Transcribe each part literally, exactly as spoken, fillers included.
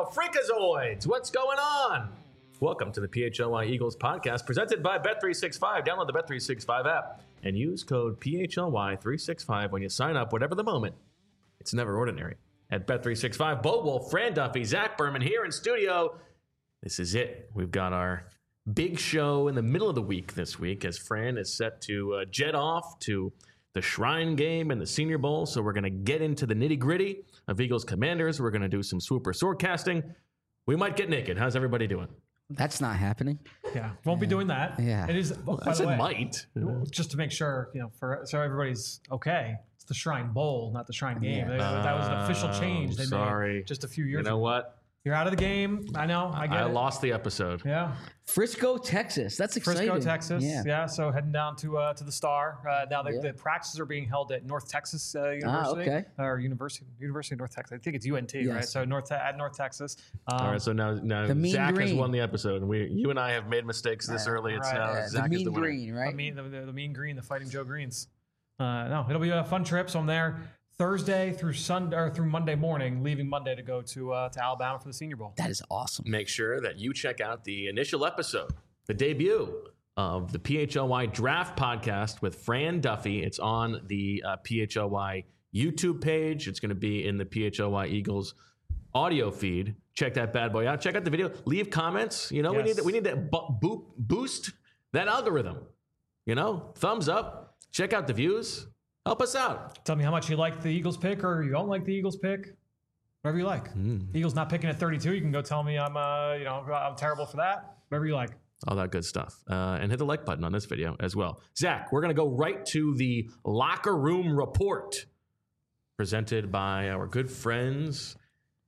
Freakazoids. What's going on? Welcome to the P H L Y Eagles podcast presented by Bet three sixty-five. Download the Bet three sixty-five app and use code P H L Y three sixty-five when you sign up, whatever the moment. It's never ordinary. At Bet three sixty-five, Bo Wolf, Fran Duffy, Zach Berman here in studio. This is it. We've got our big show in the middle of the week this week as Fran is set to uh, jet off to the Shrine game and the Senior Bowl. So we're going to get into the nitty gritty of Eagles Commanders. We're going to do some swooper sword casting. We might get naked. How's everybody doing? That's not happening. Yeah, won't be doing that. Yeah. It is. Oh, I by said the way, might. just to make sure, you know, for so everybody's okay. It's the Shrine Bowl, not the Shrine game. Yeah. That, that was an official change they sorry. made just a few years You know ago. what? You're out of the game. I know. I get I it. lost the episode. Yeah. Frisco, Texas. That's exciting. Frisco, Texas. Yeah. Yeah. So heading down to uh, to the Star. Uh, now the, Yeah. the practices are being held at North Texas uh, University. okay. Or University University of North Texas. I think it's U N T, right? Yes. So North at North Texas. Um, All right, so now, now The Mean Zach has Green. won the episode, and we, you and I have made mistakes this Right. early. It's Right. now Yeah, Zach the is mean the winner. green, I right? mean, the, the, the Mean Green, the Fighting Joe Greens. Uh, no, it'll be a fun trip. So I'm there Thursday through Sunday or through Monday morning, leaving Monday to go to uh, to Alabama for the Senior Bowl. That is awesome. Make sure that you check out the initial episode, the debut of the P H L Y Draft Podcast with Fran Duffy. It's on the uh, P H L Y YouTube page. It's going to be in the P H L Y Eagles audio feed. Check that bad boy out. Check out the video. Leave comments. You know, we Yes. need that. We need that bo- bo- boost that algorithm. You know, thumbs up. Check out the views. Help us out. Tell me how much you like the Eagles pick or you don't like the Eagles pick. Whatever you like. Mm. Eagles not picking at thirty-two. You can go tell me I'm uh you know I'm terrible for that. Whatever you like. All that good stuff. Uh, and hit the like button on this video as well. Zach, we're going to go right to the locker room report presented by our good friends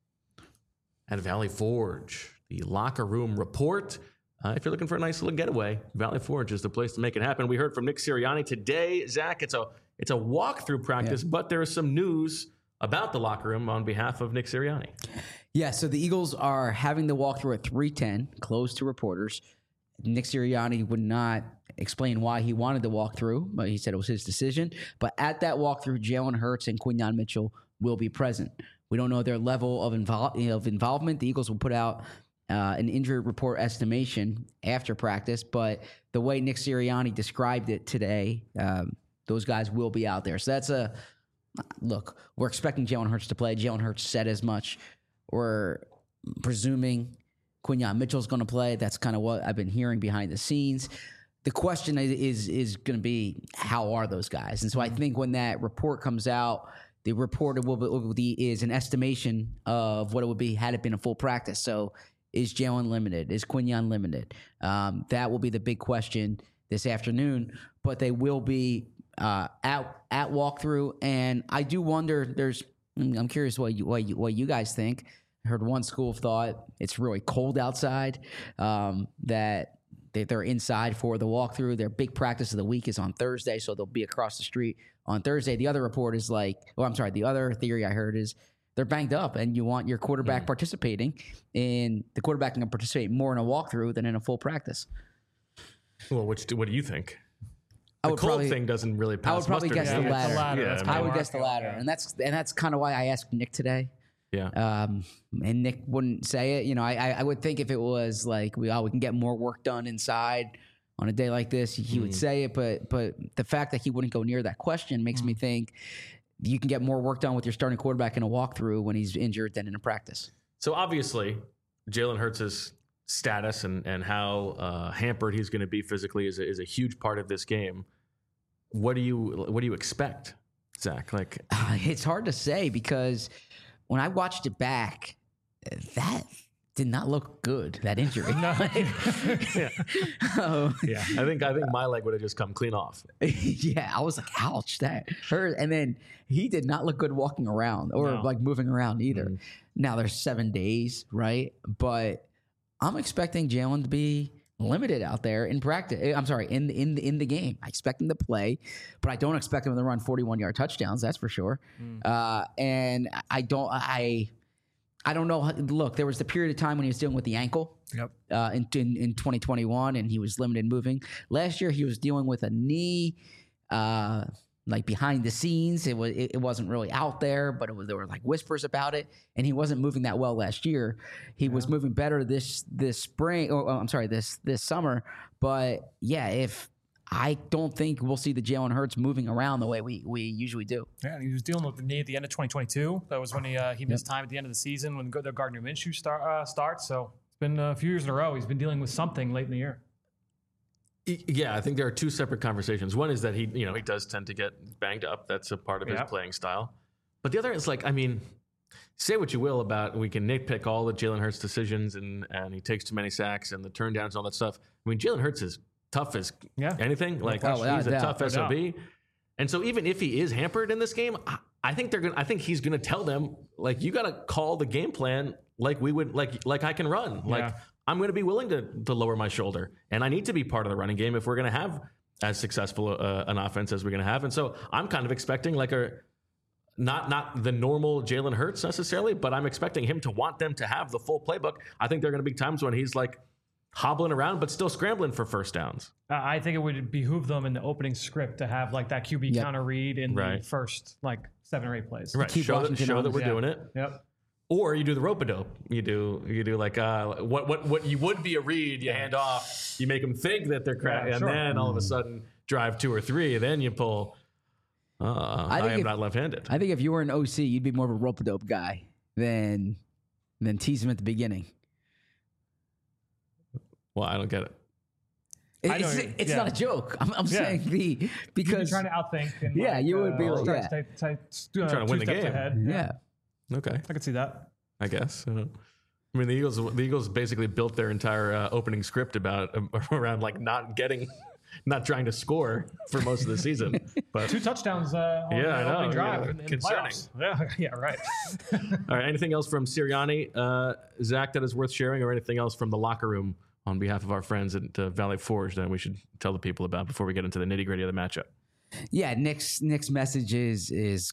at Valley Forge. The locker room report. Uh, if you're looking for a nice little getaway, Valley Forge is the place to make it happen. We heard from Nick Sirianni today. Zach, it's a it's a walkthrough practice, Yeah. but there is some news about the locker room on behalf of Nick Sirianni. Yeah, so the Eagles are having the walkthrough at three ten, closed to reporters. Nick Sirianni would not explain why he wanted the walkthrough, but he said it was his decision. But at that walkthrough, Jalen Hurts and Quinyon Mitchell will be present. We don't know their level of, invol- of involvement. The Eagles will put out uh, an injury report estimation after practice, but the way Nick Sirianni described it today, um, those guys will be out there. So that's a look. We're expecting Jalen Hurts to play. Jalen Hurts said as much. We're presuming Quinyon Mitchell's going to play. That's kind of what I've been hearing behind the scenes. The question is is, is going to be, how are those guys? And so I think when that report comes out, the report will be, will be is an estimation of what it would be had it been a full practice. So is Jalen limited? Is Quinyon limited? Um, that will be the big question this afternoon. But they will be uh, at at walkthrough, and I do wonder. There's I'm curious what you what you, what you guys think. I heard one school of thought it's really cold outside, um, that they, they're inside for the walkthrough. Their big practice of the week is on Thursday, so they'll be across the street on Thursday. The other report is like, oh, I'm sorry, the other theory I heard is they're banged up, and you want your quarterback mm. participating, and the quarterback can participate more in a walkthrough than in a full practice. Well, which what do you think? I The would cold probably, thing doesn't really pass I would probably muster guess to the me. latter. the ladder. Yeah, That's I my I mean, would mark. guess the latter, and that's and that's kind of why I asked Nick today. Yeah. Um, and Nick wouldn't say it. You know, I, I I would think if it was like we oh we can get more work done inside on a day like this, he Mm. would say it. But but the fact that he wouldn't go near that question makes Mm. me think you can get more work done with your starting quarterback in a walkthrough when he's injured than in a practice. So obviously, Jalen Hurts' status and and how uh, hampered he's going to be physically is a, is a huge part of this game. What do you what do you expect, Zach? Like, It's hard to say because when I watched it back, that did not look good. That injury. yeah, Um, yeah. I think I think my leg would have just come clean off. yeah, I was like, ouch, that hurt. And then he did not look good walking around or No. like moving around either. Mm. Now there's seven days, right? But I'm expecting Jalen to be limited out there in practice. I'm sorry, in in the, in the game. I expect him to play, but I don't expect him to run forty-one yard touchdowns. That's for sure. Mm. Uh, and I don't. I I don't know. Look, there was the period of time when he was dealing with the ankle. Yep. Uh, in, in in twenty twenty-one, and he was limited moving. Last year, he was dealing with a knee. Uh, like behind the scenes. It was it, it wasn't really out there, but it was, there were like whispers about it, and he wasn't moving that well last year. He yeah. was moving better this this spring. Or oh, I'm sorry, this this summer. But yeah, if I don't think we'll see the Jalen Hurts moving around the way we, we usually do. Yeah, and he was dealing with the knee at the end of twenty twenty-two. That was when he uh, he missed yep. time at the end of the season when the Gardner Minshew start, uh, starts. So it's been a few years in a row. He's been dealing with something late in the year. Yeah, I think there are two separate conversations. One is that he, you know, he does tend to get banged up. That's a part of his yep. playing style. But the other is like, I mean, say what you will about, we can nitpick all the Jalen Hurts decisions and, and he takes too many sacks and the turndowns and all that stuff. I mean, Jalen Hurts is tough as yeah. anything. Like oh, he's yeah, a yeah, tough S O B. And so even if he is hampered in this game, I, I think they're gonna. I think he's gonna tell them like, you got to call the game plan like we would like like I can run. Like yeah. I'm going to be willing to to lower my shoulder, and I need to be part of the running game if we're going to have as successful uh, an offense as we're going to have. And so I'm kind of expecting like a not not the normal Jalen Hurts necessarily, but I'm expecting him to want them to have the full playbook. I think there are going to be times when he's like hobbling around, but still scrambling for first downs. Uh, I think it would behoove them in the opening script to have like that Q B yep. counter read in right. the first like seven or eight plays. Right. Keep show that, show that we're yeah. doing it. Yep. Or you do the rope-a-dope. You do you do like uh, what what what you would be a read. You hand off. You make them think that they're crap, yeah, and sure. then all of a sudden drive two or three. Then you pull. Uh, I, I am if, not left-handed. I think if you were an O C, you'd be more of a rope-a-dope guy than than tease him at the beginning. Well, I don't get it. It, it's it's yeah. not a joke. I'm, I'm yeah. saying the because you're trying to outthink. And yeah, like, you would uh, be like, yeah. Stay, stay, stay, uh, trying to win the game. Ahead. Yeah. yeah. Okay, I could see that. I guess. I, I mean, the Eagles. The Eagles basically built their entire uh, opening script about uh, around like not getting, not trying to score for most of the season. But two touchdowns uh, on yeah, the I know, opening drive. Yeah, in, in concerning. Yeah, yeah, right. All right. Anything else from Sirianni, uh, Zach, that is worth sharing, or anything else from the locker room on behalf of our friends at uh, Valley Forge that we should tell the people about before we get into the nitty gritty of the matchup? Yeah, Nick's Nick's message is is.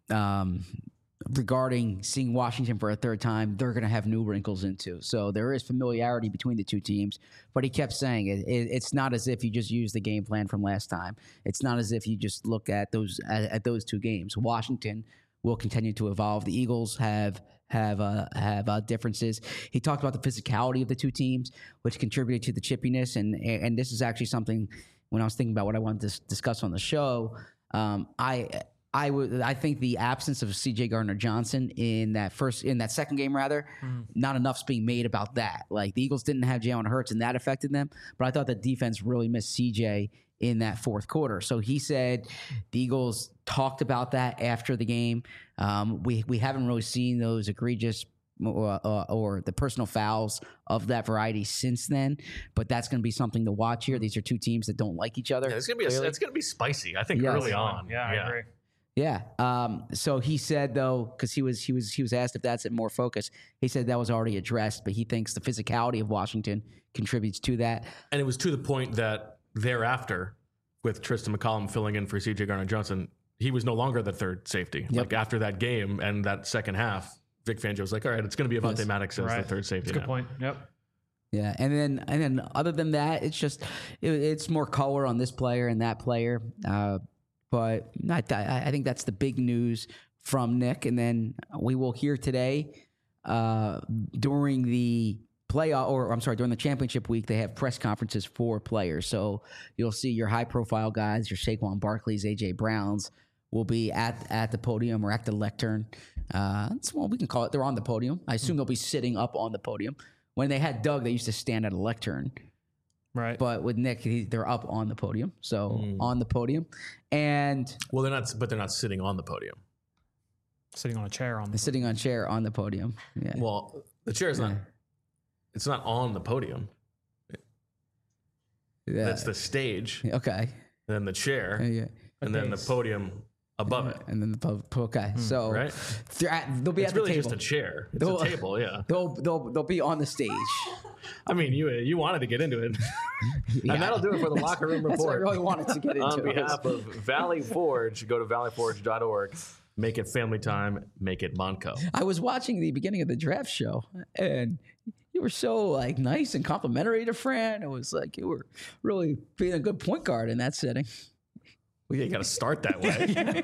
Um, regarding seeing Washington for a third time, they're going to have new wrinkles into. So there is familiarity between the two teams, but he kept saying it, it, it's not as if you just use the game plan from last time. It's not as if you just look at those at, at those two games. Washington will continue to evolve. The Eagles have have uh, have uh, differences. He talked about the physicality of the two teams, which contributed to the chippiness, and and this is actually something when I was thinking about what I wanted to discuss on the show. Um, I. I would. I think the absence of C J Gardner-Johnson in that first, in that second game, rather, mm. not enough's being made about that. Like the Eagles didn't have Jalen Hurts, and that affected them. But I thought the defense really missed C J in that fourth quarter. So he said the Eagles talked about that after the game. Um, we we haven't really seen those egregious or, uh, or the personal fouls of that variety since then. But that's going to be something to watch here. These are two teams that don't like each other. Yeah, it's going to be a, it's going to be spicy. I think yes. early on. Yeah, yeah, I agree. Yeah. Um, so he said though, because he was he was he was asked if that's at more focus. He said that was already addressed, but he thinks the physicality of Washington contributes to that. And it was to the point that thereafter, with Tristan McCollum filling in for C J Gardner-Johnson, he was no longer the third safety. Yep. Like after that game and that second half, Vic Fangio was like, "All right, it's going to be Avonte yes. Maddox as right. the third safety." That's a good now. point. Yep. Yeah, and then and then other than that, it's just it, it's more color on this player and that player. Uh, But I, th- I think that's the big news from Nick. And then we will hear today uh, during the playoff, or I'm sorry, during the championship week, they have press conferences for players. So you'll see your high-profile guys, your Saquon Barkleys, A J Browns, will be at at the podium or at the lectern. Uh, that's what we can call it. They're on the podium. I assume they'll be sitting up on the podium. When they had Doug, they used to stand at a lectern. Right. But with Nick, he, they're up on the podium. So mm. on the podium. And well, they're not, but they're not sitting on the podium. Sitting on a chair on the they're sitting on a chair on the podium. Yeah. Well, the chair is yeah. not, it's not on the podium. Yeah. That's the stage. Okay. Then the chair. Yeah. yeah. And then the podium above yeah. it. And then the podium. Okay. Mm. So right? At, they'll be it's at the really table. just a chair. It's they'll, a table, yeah. They'll, they'll, they'll be on the stage. I mean, you you wanted to get into it. yeah. And that'll do it for the Locker Room Report. That's what I really wanted to get into. On behalf of Valley Forge, go to valley forge dot org. Make it family time. Make it Monco. I was watching the beginning of the draft show, and you were so like nice and complimentary to Fran. It was like you were really being a good point guard in that setting. Well, yeah, you got to start that way.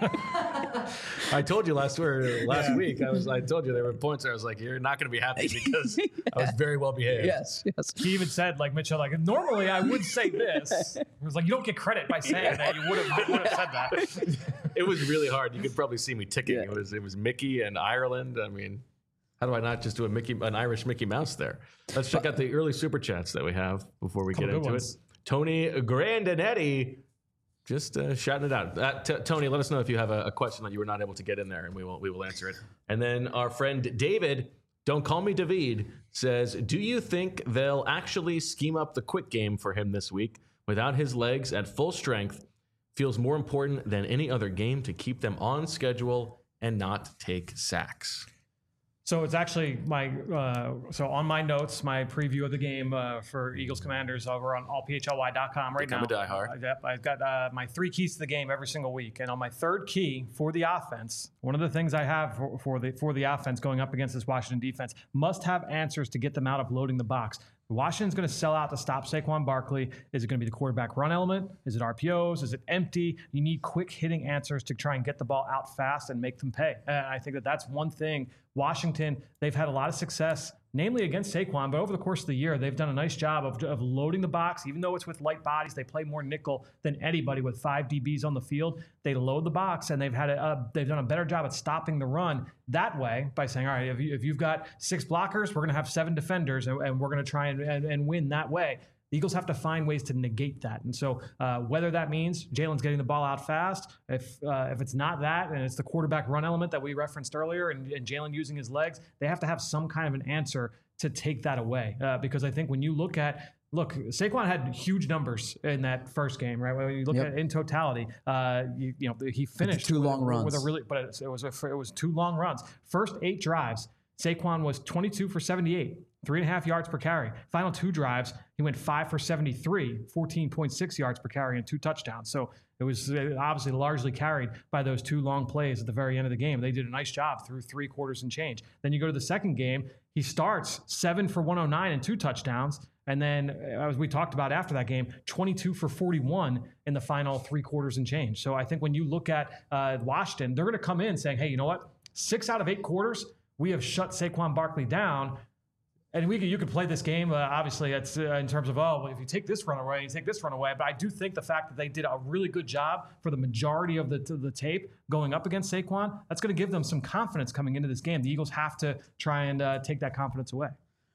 I told you last or last Yeah. week. I was. I told you there were points where I was like, "You're not going to be happy because I was very well behaved." Yes, yes. He even said, like Mitchell, like normally I would say this. It was like you don't get credit by saying that. You would have would have said that. It was really hard. You could probably see me ticking. Yeah. It was. It was Mickey and Ireland. I mean, how do I not just do a Mickey, an Irish Mickey Mouse there? Let's check out the early super chats that we have before we Couple get good into ones. it. Tony Grandinetti. Just uh, shouting it out. Uh, t- Tony, let us know if you have a, a question that you were not able to get in there, and we will we will answer it. And then our friend David, don't call me David, says, do you think they'll actually scheme up the quick game for him this week without his legs at full strength? Feels more important than any other game to keep them on schedule and not take sacks. So it's actually my uh, so on my notes, my preview of the game uh, for Eagles Commanders over on all P H L Y dot com right Become now. a diehard. Uh, yep, I've got uh, my three keys to the game every single week, and on my third key for the offense, one of the things I have for, for the for the offense going up against this Washington defense must have answers to get them out of loading the box. Washington's going to sell out to stop Saquon Barkley. Is it going to be the quarterback run element? Is it R P Os? Is it empty? You need quick hitting answers to try and get the ball out fast and make them pay. And I think that that's one thing. Washington, they've had a lot of success, namely against Saquon, but over the course of the year, they've done a nice job of, of loading the box. Even though it's with light bodies, they play more nickel than anybody with five D Bs on the field. They load the box, and they've had a, a they've done a better job at stopping the run that way by saying, all right, if, you, if you've got six blockers, we're going to have seven defenders, and, and we're going to try and, and, and win that way. The Eagles have to find ways to negate that. And so uh, whether that means Jalen's getting the ball out fast, if uh, if it's not that, and it's the quarterback run element that we referenced earlier, and, and Jalen using his legs, they have to have some kind of an answer to take that away. Uh, because I think when you look at, look, Saquon had huge numbers in that first game, right? When you look Yep. at it in totality, uh, you, you know, he finished two with, long with runs. a really, but it, it was a, it was two long runs. First eight drives, Saquon was twenty-two for seventy-eight. Three and a half yards per carry. Final two drives, he went five for seventy-three, fourteen point six yards per carry and two touchdowns. So it was obviously largely carried by those two long plays at the very end of the game. They did a nice job through three quarters and change. Then you go to the second game, he starts seven for one oh nine and two touchdowns. And then, as we talked about after that game, twenty-two for forty-one in the final three quarters and change. So I think when you look at uh, Washington, they're going to come in saying, hey, you know what? Six out of eight quarters, we have shut Saquon Barkley down. And we could, you could play this game, uh, obviously, it's, uh, in terms of, oh, well, if you take this run away, you take this run away. But I do think the fact that they did a really good job for the majority of the, the tape going up against Saquon, that's going to give them some confidence coming into this game. The Eagles have to try and uh, take that confidence away.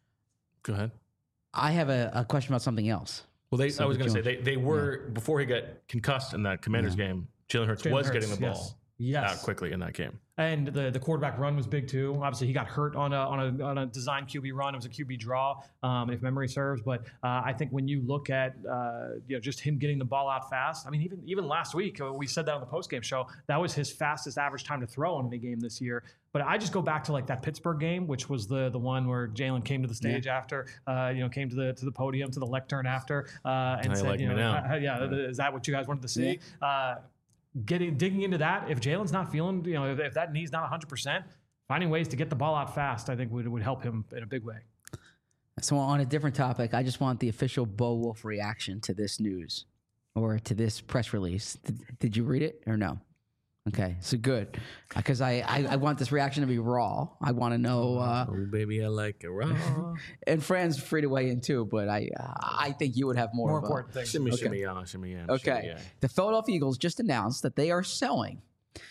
Go ahead. I have a, a question about something else. Well, they, So I was the going to say Jones- they, they were before he got concussed in that Commanders game. Jalen Hurts Jalen was Hurts, getting the ball yes. Yes. out quickly in that game. And the, the quarterback run was big too. Obviously, he got hurt on a on a on a design Q B run. It was a Q B draw, um, if memory serves. But uh, I think when you look at uh, you know just him getting the ball out fast. I mean, even even last week uh, we said that on the postgame show. That was his fastest average time to throw in any game this year. But I just go back to like that Pittsburgh game, which was the the one where Jalen came to the stage yeah. after, uh, you know, came to the to the podium to the lectern after, uh, and I said, like you me know, now. uh, yeah, is that what you guys wanted to see? Yeah. Uh, Getting digging into that, if Jalen's not feeling, you know, if, if that knee's not one hundred percent, finding ways to get the ball out fast, I think would would help him in a big way. So on a different topic, I just want the official Bo Wolf reaction to this news or to this press release. Did, did you read it or no? Okay, so good, because I, I, I want this reaction to be raw. I want to know. Uh, oh, baby, I like it raw. and Fran's free to weigh in too, but I uh, I think you would have more, More of important a, things. Shimmy, Okay. shimmy, yeah, shimmy, yeah. Okay, shimmy, yeah. the Philadelphia Eagles just announced that they are selling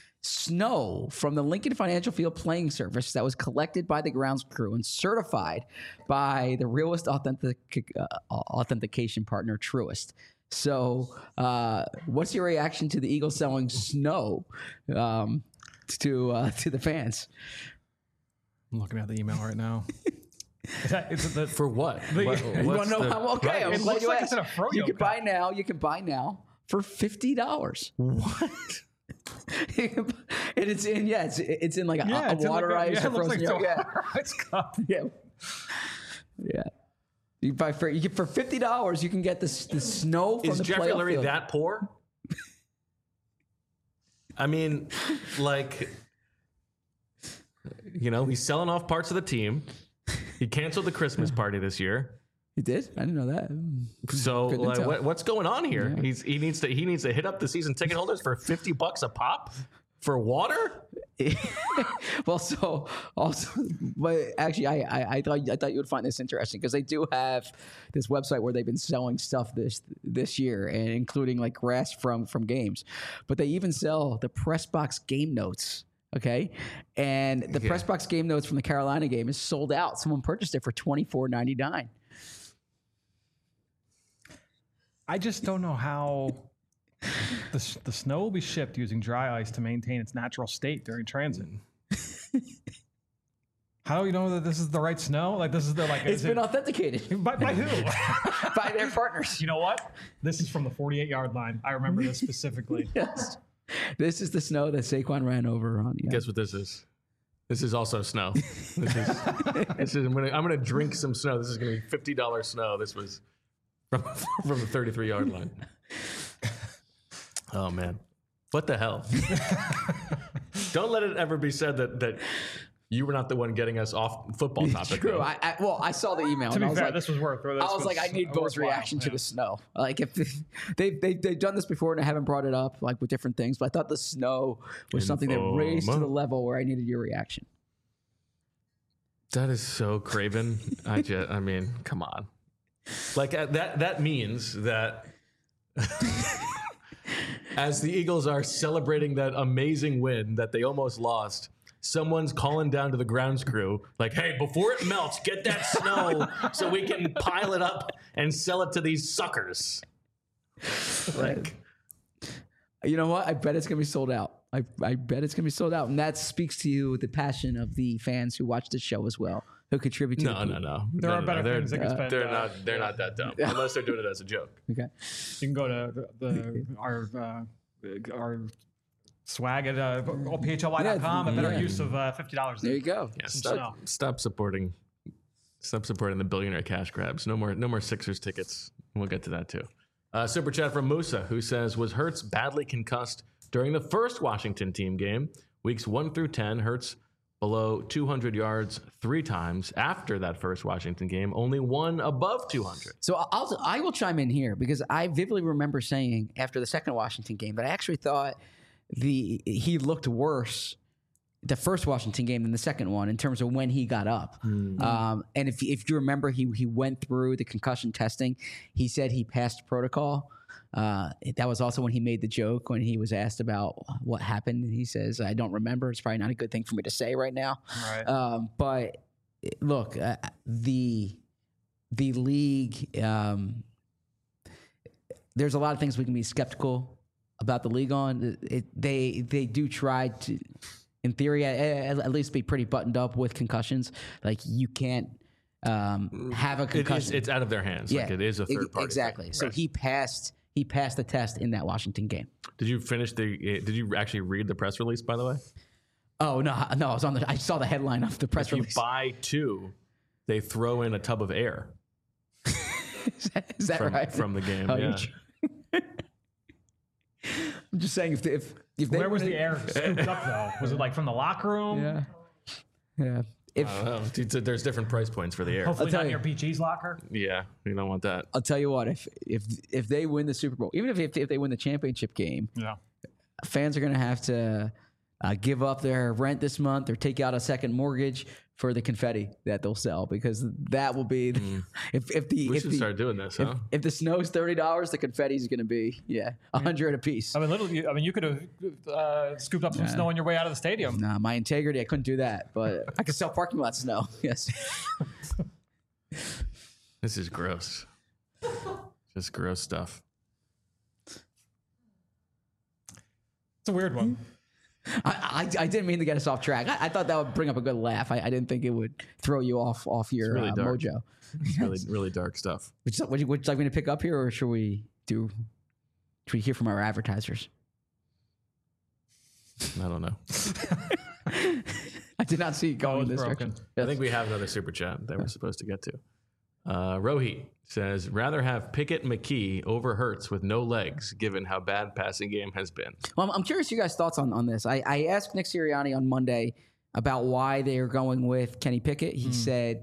snow from the Lincoln Financial Field playing surface that was collected by the grounds crew and certified by the realist authentic, uh, authentication partner Truist. So, uh, what's your reaction to the Eagles selling snow um, to uh, to the fans? I'm looking at the email right now. Is that, is it the, For what? The- what You want to know how? Okay, I'm It glad looks you like asked. it's in a froyo You can cup. buy now. You can buy now for fifty dollars. What? and it's in yeah, it's it's in like a, yeah, a it's in like a- waterized yeah, it looks frozen like it's yogurt. a ice cup. Yeah, yeah. You buy for you get for fifty dollars. You can get this the snow from Is the Jeffrey playoff Lurie field. that poor? I mean, like, you know, he's selling off parts of the team. He canceled the Christmas party this year. He did? I didn't know that. So Good like, intel. what, what's going on here? Yeah. He's he needs to he needs to hit up the season ticket holders for fifty bucks a pop for water. Well, so also, but actually, I, I I thought I thought you would find this interesting because they do have this website where they've been selling stuff this this year, and including like grass from from games, but they even sell the press box game notes. Okay, and the Yeah. press box game notes from the Carolina game is sold out. Someone purchased it for twenty-four ninety-nine. I just don't know how the, s- the snow will be shipped using dry ice to maintain its natural state during transit. How do you know that this is the right snow? Like this is the like. It's is been it, authenticated by, by who? by their partners. You know what? This is from the forty-eight yard line. I remember this specifically. Yes, this is the snow that Saquon ran over on. Yeah. Guess what this is? This is also snow. This is, this is I'm gonna I'm gonna drink some snow. This is gonna be fifty dollars snow. This was from from the thirty-three yard line. Oh man, what the hell? Don't let it ever be said that that you were not the one getting us off football topic. True. though. I, I well, I saw the email. To and be I was fair, like, this was worth. This I was like, I need Bo's worthwhile. reaction to Yeah. the snow. Like, if they they they've done this before and I haven't brought it up, like with different things, but I thought the snow was something that raised to the Informa. level where I needed your reaction. That is so craven. I just, I mean, come on. Like uh, that. That means that as the Eagles are celebrating that amazing win that they almost lost, someone's calling down to the grounds crew, like, "Hey, before it melts, get that snow so we can pile it up and sell it to these suckers." Like, You know what? I bet it's gonna be sold out. I, I bet it's gonna be sold out, and that speaks to you the passion of the fans who watch the show as well, who contribute to. no, the no, no. There no, are no, better no. things they They're, can spend. they're uh, not. They're not that dumb unless they're doing it as a joke. Okay. You can go to the, the our uh, our swag at uh, P H L Y dot com. Yeah, A better yeah. use of uh, fifty dollars. There you go. Yeah, Some stop, snow. stop supporting. Stop supporting the billionaire cash grabs. No more. No more Sixers tickets. We'll get to that too. Uh, super chat from Musa, who says, "Was Hurts badly concussed during the first Washington team game? Weeks one through ten, Hurts below two hundred yards three times. After that first Washington game, only one above two hundred. So I'll I will chime in here because I vividly remember saying after the second Washington game that I actually thought the he looked worse the first Washington game than the second one in terms of when he got up. Um, and if if you remember, he he went through the concussion testing. He said he passed protocol. Uh, that was also when he made the joke when he was asked about what happened. He says, "I don't remember. It's probably not a good thing for me to say right now." Right. Um, but look, uh, the the league. Um, there's a lot of things we can be skeptical about the league on. It, they they do try to, in theory, at, at least be pretty buttoned up with concussions. Like you can't um, have a It is, concussion. it's out of their hands. Like it is a ex- third party. Exactly. thing. So Right. he passed. He passed the test in that Washington game. Did you finish the? uh, Did you actually read the press release? By the way, Oh no, no! I was on the. I saw the headline of the press if you release. buy two, they throw in a tub of air Is that, is that from, right? from the game. Oh, yeah. you're I'm just saying if if if they Where was the air scooped up though? Was it like from the locker room? Yeah, yeah. If I don't know. Dude, so there's different price points for the air. Hopefully tell not you. near B G's locker. Yeah, you don't want that. I'll tell you what, if if if they win the Super Bowl, even if if, if they win the championship game, Yeah. fans are going to have to uh, give up their rent this month or take out a second mortgage for the confetti that they'll sell because that will be if if the We if should the, start doing this, if, huh? if the snow's thirty dollars, the confetti is going to be yeah a hundred a piece. I mean, literally. I mean, you could have uh, scooped up some snow on your way out of the stadium. Nah, my integrity, I couldn't do that, but I could sell parking lot snow. Yes. This is gross. Just gross stuff. It's a weird one. I, I, I didn't mean to get us off track. I, I thought that would bring up a good laugh. I, I didn't think it would throw you off off your really uh, dark. mojo. It's really, really dark stuff. Would you, would, you, would you like me to pick up here, or should we do? Should we hear from our advertisers? I don't know. I did not see it going Oh, in it's this broken. direction. I think we have another super chat that we're supposed to get to. Uh, Rohit says, rather have Pickett McKee over Hurts with no legs, given how bad passing game has been. Well, I'm, I'm curious you guys' thoughts on, on this. I, I asked Nick Sirianni on Monday about why they are going with Kenny Pickett. He said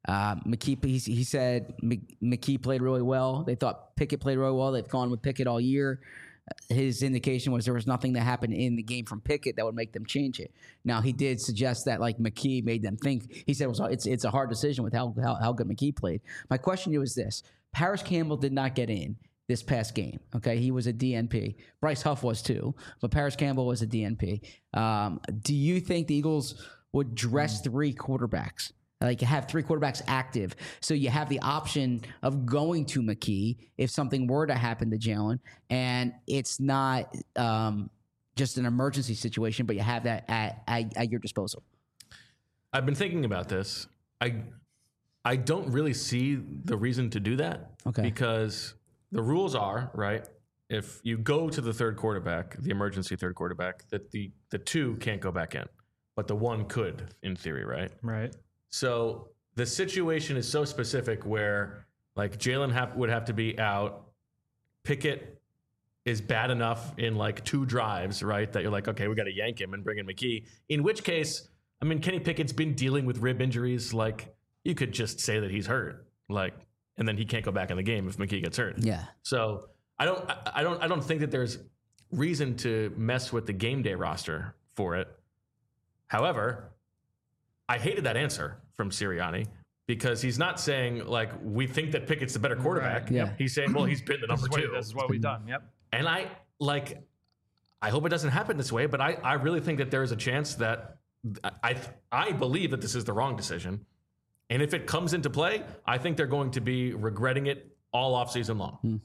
Uh, McKee, he, he said McKee played really well. They thought Pickett played really well. They've gone with Pickett all year. His indication was there was nothing that happened in the game from Pickett that would make them change it. Now, he did suggest that like McKee made them think. He said it was, it's it's a hard decision with how, how, how good McKee played. My question to you is this. Paris Campbell did not get in this past game. Okay, he was a D N P. Bryce Huff was too, but Paris Campbell was a D N P. Um, do you think the Eagles would dress three quarterbacks? Like have three quarterbacks active, so you have the option of going to McKee if something were to happen to Jalen, and it's not um, just an emergency situation, but you have that at, at, at your disposal. I've been thinking about this. I I don't really see the reason to do that. Okay. Because the rules are, right, if you go to the third quarterback, the emergency third quarterback, that the, the two can't go back in, but the one could, in theory, right? Right. So the situation is so specific where, like, Jalen ha- would have to be out. Pickett is bad enough in, like, two drives, right, that you're like, okay, we got to yank him and bring in McKee. In which case, I mean, Kenny Pickett's been dealing with rib injuries. Like, you could just say that he's hurt, like, and then he can't go back in the game if McKee gets hurt. Yeah. So I don't, I, I don't, I don't think that there's reason to mess with the game day roster for it. However, I hated that answer from Sirianni because he's not saying, like, we think that Pickett's the better quarterback. Right. Yeah. He's saying, well, he's been the number This is two. what, this is what we've done. Yep. And I, like, I hope it doesn't happen this way, but I, I really think that there is a chance that I, I believe that this is the wrong decision. And if it comes into play, I think they're going to be regretting it all offseason long. Hmm.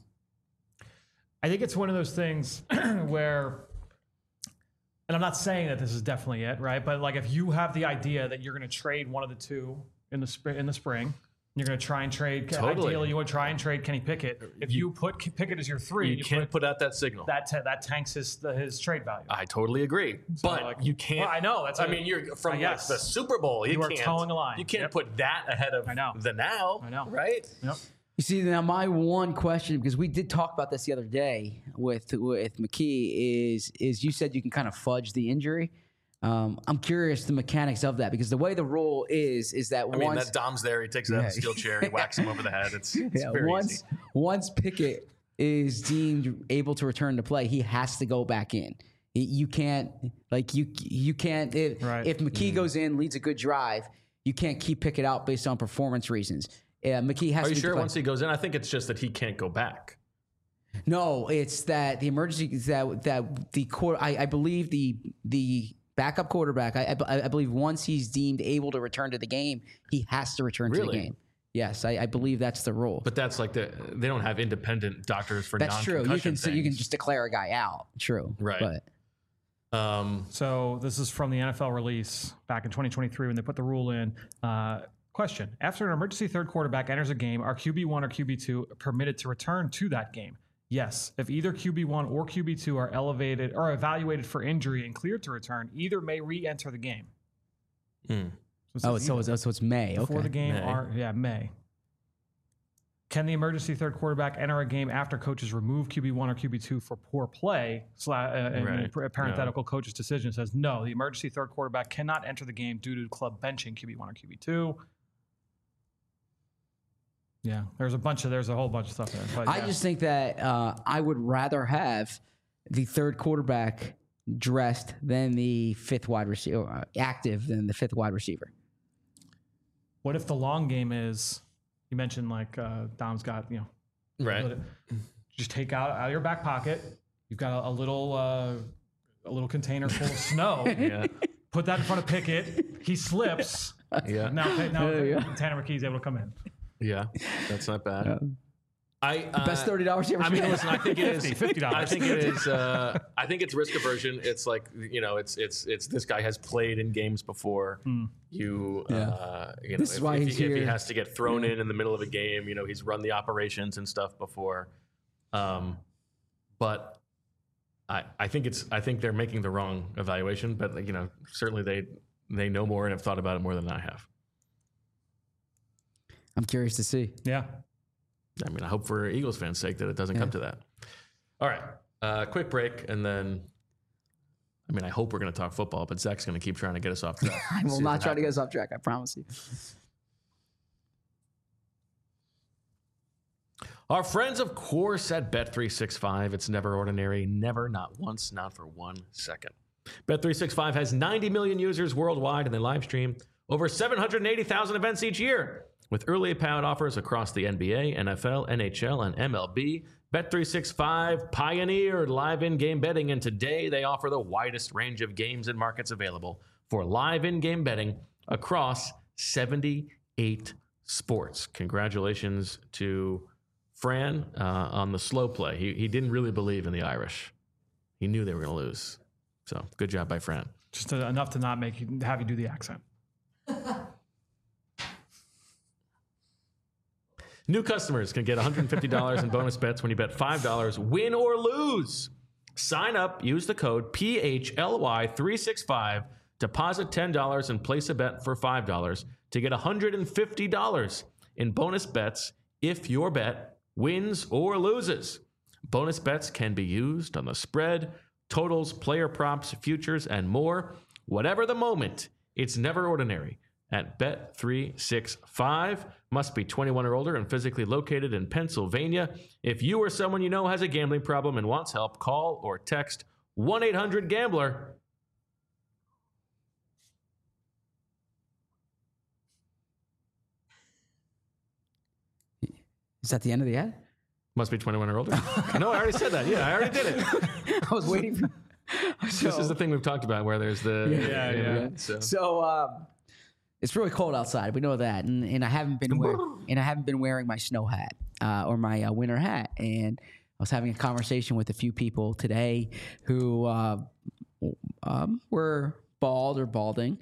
I think it's one of those things where, and I'm not saying that this is definitely it, right? But like, if you have the idea that you're going to trade one of the two in the spring, in the spring, you're going to try and trade. Totally. Ideally, you would try and trade Kenny Pickett. If you, you put Pickett as your three, You, you can't put, put out that signal. that ta- that tanks his the, his trade value. I totally agree, So, but like, you can't. well, I know, that's I a- mean, you're from uh, yes. like the Super Bowl. You, You are can't towing a line. You can't Yep. put that ahead of I know. the now. I know. right? Yep. You see, now my one question, because we did talk about this the other day with with McKee, is is you said you can kind of fudge the injury. Um, I'm curious the mechanics of that, because the way the rule is is that I mean, once that Dom's there. He takes it out of the Yeah. steel chair. He whacks him over the head. It's, it's yeah, very once easy. once Pickett is deemed able to return to play, he has to go back in. He- You can't like you you can't if, Right. if McKee goes in, leads a good drive, you can't keep Pickett out based on performance reasons. Uh, McKee has Are to you be sure declared- once he goes in? I think it's just that he can't go back. No, it's that the emergency that that the court. I, I believe the the backup quarterback. I, I I believe once he's deemed able to return to the game, he has to return to Really? the game. Yes, I, I believe that's the rule. But that's like the they don't have independent doctors for that's true. You non-concussion can so you can things. just declare a guy out. True. Right. But Um, So this is from the N F L release back in twenty twenty-three when they put the rule in. Uh, question: after an emergency third quarterback enters a game, are Q B one or Q B two permitted to return to that game? Yes. If either Q B one or Q B two are elevated or evaluated for injury and cleared to return, either may re-enter the game. hmm. So oh, it's so it's, so it's May. before Okay. the game May. are yeah May. Can the emergency third quarterback enter a game after coaches remove Q B one or Q B two for poor play? Sla- uh, and Right. a parenthetical coach's decision says no. The emergency third quarterback cannot enter the game due to club benching Q B one or Q B two. Yeah, there's a bunch of there's a whole bunch of stuff there. But I yeah. just think that uh, I would rather have the third quarterback dressed than the fifth wide receiver, uh, active than the fifth wide receiver. What if the long game is? You mentioned like uh, Dom's got you know Right. Let it- just take out out of your back pocket. You've got a, a little uh, a little container full of snow. Yeah. Put that in front of Pickett. He slips. Yeah. Now, now There you go. Tanner McKee's able to come in. Yeah. That's not bad. I uh, Best thirty dollars you ever I mean, spent. listen. I think it is fifty, fifty dollars. I think it is. Uh, I think it's risk aversion. It's like you know, it's it's it's this guy has played in games before. You, Yeah. uh, you know, This is if, why if, he's he, if he here. has to get thrown in in the middle of a game, you know, he's run the operations and stuff before. Um, but I I think it's I think they're making the wrong evaluation. But like, you know, certainly they they know more and have thought about it more than I have. I'm curious to see. Yeah. I mean, I hope for Eagles fans' sake that it doesn't come to that. All right, uh, quick break, and then, I mean, I hope we're going to talk football, but Zach's going to keep trying to get us off track. I will not try to get us off track. I promise you. Our friends, of course, at Bet three sixty-five. It's never ordinary, never, not once, not for one second. Bet three sixty-five has ninety million users worldwide, and they live stream over seven hundred eighty thousand events each year. With early payout offers across the N B A, N F L, N H L, and M L B, Bet three sixty-five pioneered live in-game betting, and today they offer the widest range of games and markets available for live in-game betting across seventy-eight sports. Congratulations to Fran uh, on the slow play. He, he didn't really believe in the Irish. He knew they were going to lose. So good job by Fran. Just to, enough to not make you have you do the accent. New customers can get one hundred fifty dollars in bonus bets when you bet five dollars, win or lose. Sign up, use the code P H L Y three sixty-five, deposit ten dollars and place a bet for five dollars to get one hundred fifty dollars in bonus bets if your bet wins or loses. Bonus bets can be used on the spread, totals, player props, futures, and more. Whatever the moment, it's never ordinary. At Bet three sixty-five, must be twenty-one or older and physically located in Pennsylvania. If you or someone you know has a gambling problem and wants help, call or text one eight hundred gambler. Is that the end of the ad? Must be twenty-one or older. No, I already said that. Yeah, I already did it. I was waiting for... So, this is the thing we've talked about where there's the... Yeah, yeah. yeah. yeah. So, So um, it's really cold outside. We know that, and, and I haven't been wear, and I haven't been wearing my snow hat uh, or my uh, winter hat. And I was having a conversation with a few people today who uh, um, were bald or balding,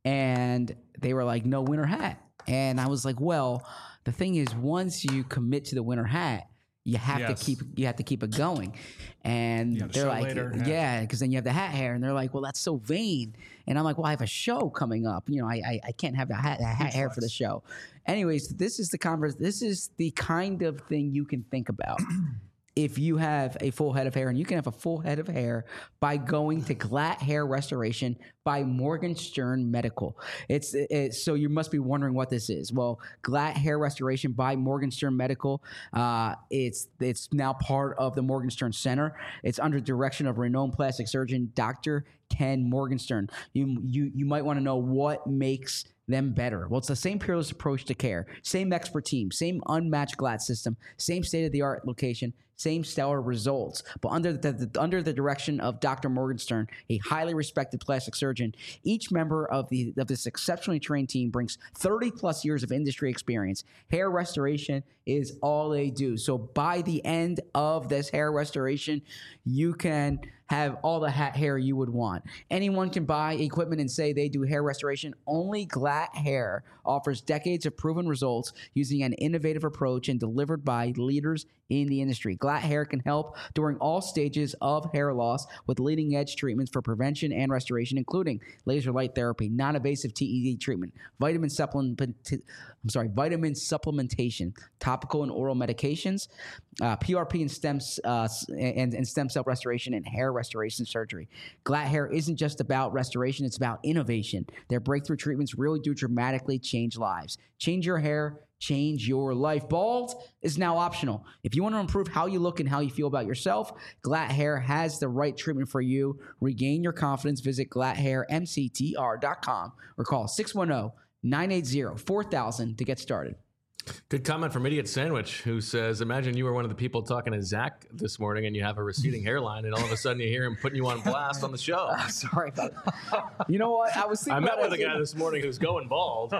and they were like, "No winter hat." And I was like, "Well, the thing is, once you commit to the winter hat, you have Yes. to keep you have to keep it going." And You have a they're show like, later, yeah. yeah, because then you have the hat hair, and they're like, well, that's so vain. And I'm like, well, I have a show coming up. You know, I I, I can't have the hat, the hat hair for the show. Anyways, this is the converse. This is the kind of thing you can think about. If you have a full head of hair, and you can have a full head of hair by going to Glatt Hair Restoration by Morgenstern Medical. It's, it's so you must be wondering what this is. Well, Glatt Hair Restoration by Morgenstern Medical. Uh, it's it's now part of the Morgenstern Center. It's under direction of renowned plastic surgeon Doctor Ken Morgenstern. You you you might want to know what makes them better. Well, it's the same peerless approach to care, same expert team, same unmatched Glatt system, same state-of-the-art location, same stellar results. But under the, the under the direction of Doctor Morgenstern, a highly respected plastic surgeon, each member of the of this exceptionally trained team brings thirty plus years of industry experience. Hair restoration is all they do. So by the end of this hair restoration, you can have all the hat hair you would want. Anyone can buy equipment and say they do hair restoration. Only Glatt Hair offers decades of proven results using an innovative approach and delivered by leaders in the industry. Glatt Hair can help during all stages of hair loss with leading edge treatments for prevention and restoration, including laser light therapy, non-invasive T E D treatment, vitamin supplement, I'm sorry, vitamin supplementation, topical and oral medications, uh, P R P and stem uh, and, and stem cell restoration, and hair restoration surgery. Glatt Hair isn't just about restoration; it's about innovation. Their breakthrough treatments really do dramatically change lives. Change your hair, change your life. Bald is now optional. If you want to improve how you look and how you feel about yourself, Glatt Hair has the right treatment for you. Regain your confidence. Visit glatt hair m c t r dot com or call six one zero, nine eight zero, four thousand to get started. good comment from Idiot Sandwich, who says, imagine you were one of the people talking to Zach this morning and you have a receding hairline, and all of a sudden you hear him putting you on blast on the show. Uh, sorry about that. You know what? I was thinking I met about with it. a guy this morning who's going bald.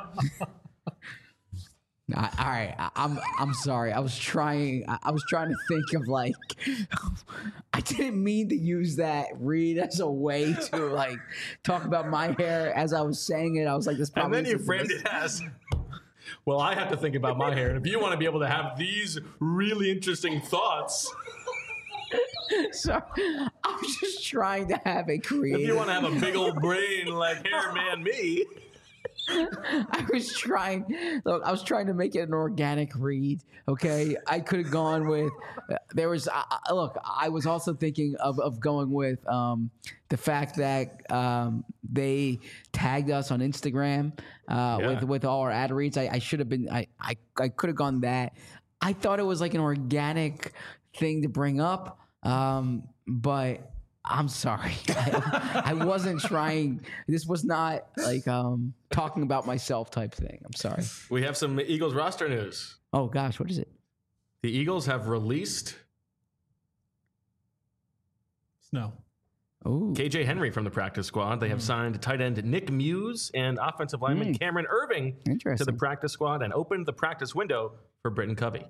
I, all right, I, I'm I'm sorry. I was trying. I, I was trying to think of like. I didn't mean to use that read as a way to like talk about my hair as I was saying it. I was like, this. And Probably then you isn't framed this. it as, well, I have to think about my hair. And if you want to be able to have these really interesting thoughts, Sorry, I was just trying to have a creative. if you want to have a big old brain like hair man me, I was trying. Look, I was trying to make it an organic read. Okay, I could have gone with. There was. Uh, look, I was also thinking of, of going with um, the fact that um, they tagged us on Instagram uh, Yeah. with with all our ad reads. I, I should have been. I I, I could have gone that. I thought it was like an organic thing to bring up, um, but I'm sorry. I, I wasn't trying. This was not like um, talking about myself type thing. I'm sorry. We have some Eagles roster news. Oh, gosh. What is it? The Eagles have released No. Oh, K J Henry from the practice squad. They have Mm. signed tight end Nick Muse and offensive lineman Mm. Cameron Irving to interesting. the practice squad and opened the practice window for Britton Covey.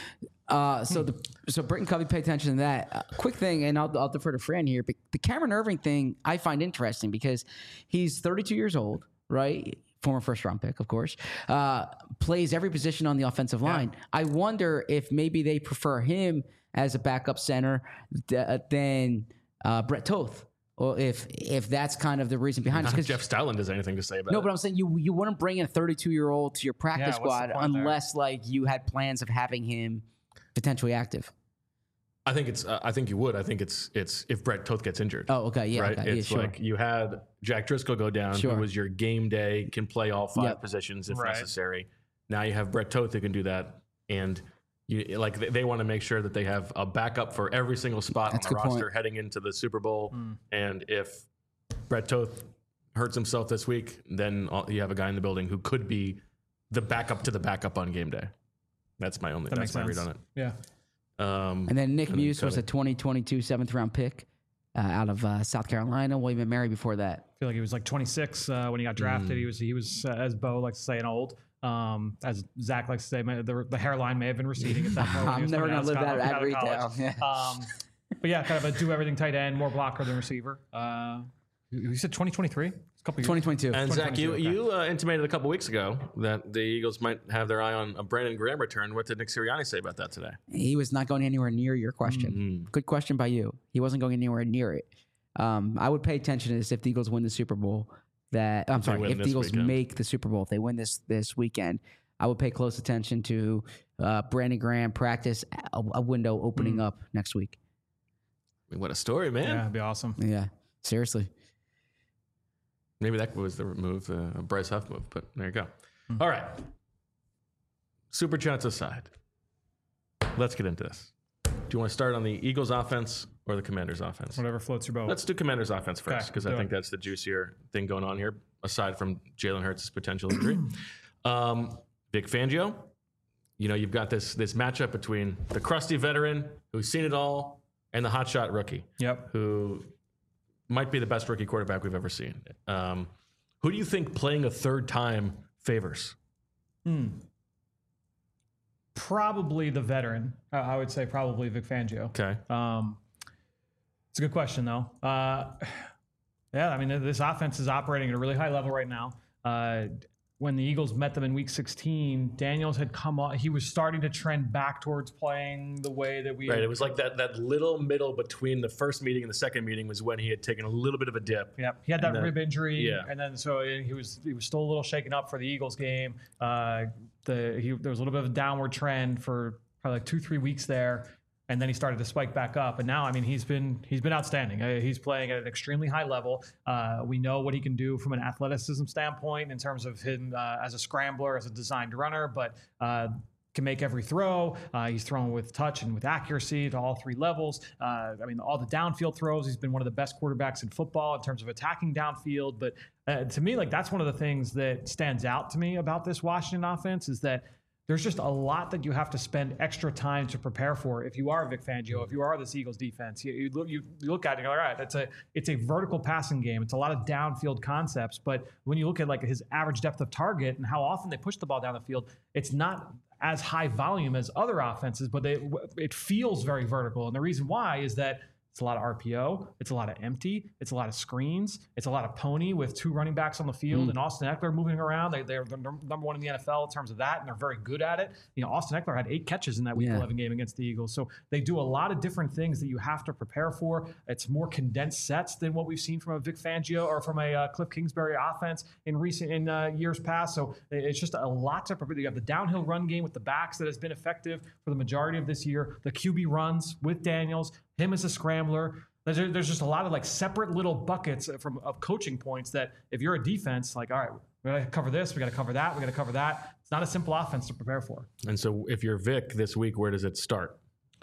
Uh, so the so Britton Covey, pay attention to that. Uh, quick thing, and I'll, I'll defer to Fran here. But the Cameron Irving thing I find interesting because he's thirty-two years old, right? Former first round pick, of course. Uh, plays every position on the offensive line. I wonder if maybe they prefer him as a backup center th- than uh, Brett Toth, or if if that's kind of the reason behind it. Not Because Jeff Styland has anything to say about no, it. but I'm saying you you wouldn't bring in a thirty-two year old to your practice Yeah, what's the squad point there? unless like you had plans of having him potentially active. I think it's. Uh, I think you would. I think it's. It's if Brett Toth gets injured. Oh, okay, yeah, right. okay, It's yeah, sure. like you had Jack Driscoll go down, Sure. who was your game day, can play all five Yep. positions if Right. necessary. Now you have Brett Toth who can do that, and you like they, they want to make sure that they have a backup for every single spot That's on a the good roster point. heading into the Super Bowl. Mm. And if Brett Toth hurts himself this week, then all, you have a guy in the building who could be the backup to the backup on game day. That's my only. That that's makes my sense. read on it. Yeah. Um, And then Nick And then Muse was Covey. a twenty twenty-two seventh round pick uh, out of uh, South Carolina. William and Mary before that. I feel like he was like twenty-six uh, when he got drafted. Mm. He was he was uh, as Bo likes to say an old. Um, as Zach likes to say, my, the, the hairline may have been receding at that point. when he I'm was never coming gonna out live of that Scott- ad read out of down. college. Yeah. Um, but yeah, kind of a do everything tight end, more blocker than receiver. Uh, you said twenty twenty-three? It's a couple years. twenty twenty-two. And Zach, you, okay. you uh, intimated a couple weeks ago that the Eagles might have their eye on a Brandon Graham return. What did Nick Sirianni say about that today? He was not going anywhere near your question. Mm. Good question by you. He wasn't going anywhere near it. Um, I would pay attention to this if the Eagles win the Super Bowl. That I'm they sorry, win if the this Eagles weekend. make the Super Bowl, if they win this this weekend, I would pay close attention to uh, Brandon Graham practice a, a window opening up next week. I mean, what a story, man. Yeah, it'd be awesome. Yeah, seriously. Maybe that was the move, uh, a Bryce Huff move, but there you go. All right. Super chats aside, let's get into this. Do you want to start on the Eagles offense or the Commanders offense? Whatever floats your boat. Let's do Commanders offense first Okay, because I do think it. that's the juicier thing going on here, aside from Jalen Hurts' potential injury. um, Vic Fangio, you know, you've got this this matchup between the crusty veteran who's seen it all and the hotshot rookie Yep. who might be the best rookie quarterback we've ever seen. Um, who do you think playing a third time favors? Hmm. Probably the veteran. Uh, I would say probably Vic Fangio. Okay. Um, it's a good question, though. Uh, yeah, I mean, this offense is operating at a really high level right now. Uh, when the Eagles met them in Week sixteen, Daniels had come on. He was starting to trend back towards playing the way that we. Right. It was like that that little middle between the first meeting and the second meeting was when he had taken a little bit of a dip. Yep, he had that And then- rib injury, yeah. and then so he was he was still a little shaken up for the Eagles game. Uh, the he, there was a little bit of a downward trend for probably like two three weeks there, and then he started to spike back up. And now, I mean, he's been he's been outstanding. Uh, he's playing at an extremely high level. Uh, we know what he can do from an athleticism standpoint in terms of him uh, as a scrambler, as a designed runner, but. Uh, can make every throw. Uh, he's thrown with touch and with accuracy to all three levels. Uh, I mean, all the downfield throws. He's been one of the best quarterbacks in football in terms of attacking downfield. But uh, to me, like that's one of the things that stands out to me about this Washington offense is that there's just a lot that you have to spend extra time to prepare for. If you are Vic Fangio, if you are this Eagles defense, you, you look you, you look at it and you're like, all right, it's a it's a vertical passing game. It's a lot of downfield concepts. But when you look at like his average depth of target and how often they push the ball down the field, it's not as high volume as other offenses, but they, it feels very vertical. And the reason why is that it's a lot of R P O, it's a lot of empty, it's a lot of screens, it's a lot of pony with two running backs on the field, Mm. and Austin Eckler moving around. They, they're the number one in the N F L in terms of that, and they're very good at it. You know, Austin Eckler had eight catches in that Week Yeah. eleven game against the Eagles. So they do a lot of different things that you have to prepare for. It's more condensed sets than what we've seen from a Vic Fangio or from a uh, Cliff Kingsbury offense in recent in uh, years past. So it's just a lot to prepare. You have the downhill run game with the backs that has been effective for the majority of this year. The Q B runs with Daniels, him as a scrambler. There's, there's just a lot of like separate little buckets from of coaching points that if you're a defense, like, all right, we got to cover this, we got to cover that, we got to cover that. It's not a simple offense to prepare for. And so if you're Vic this week, where does it start?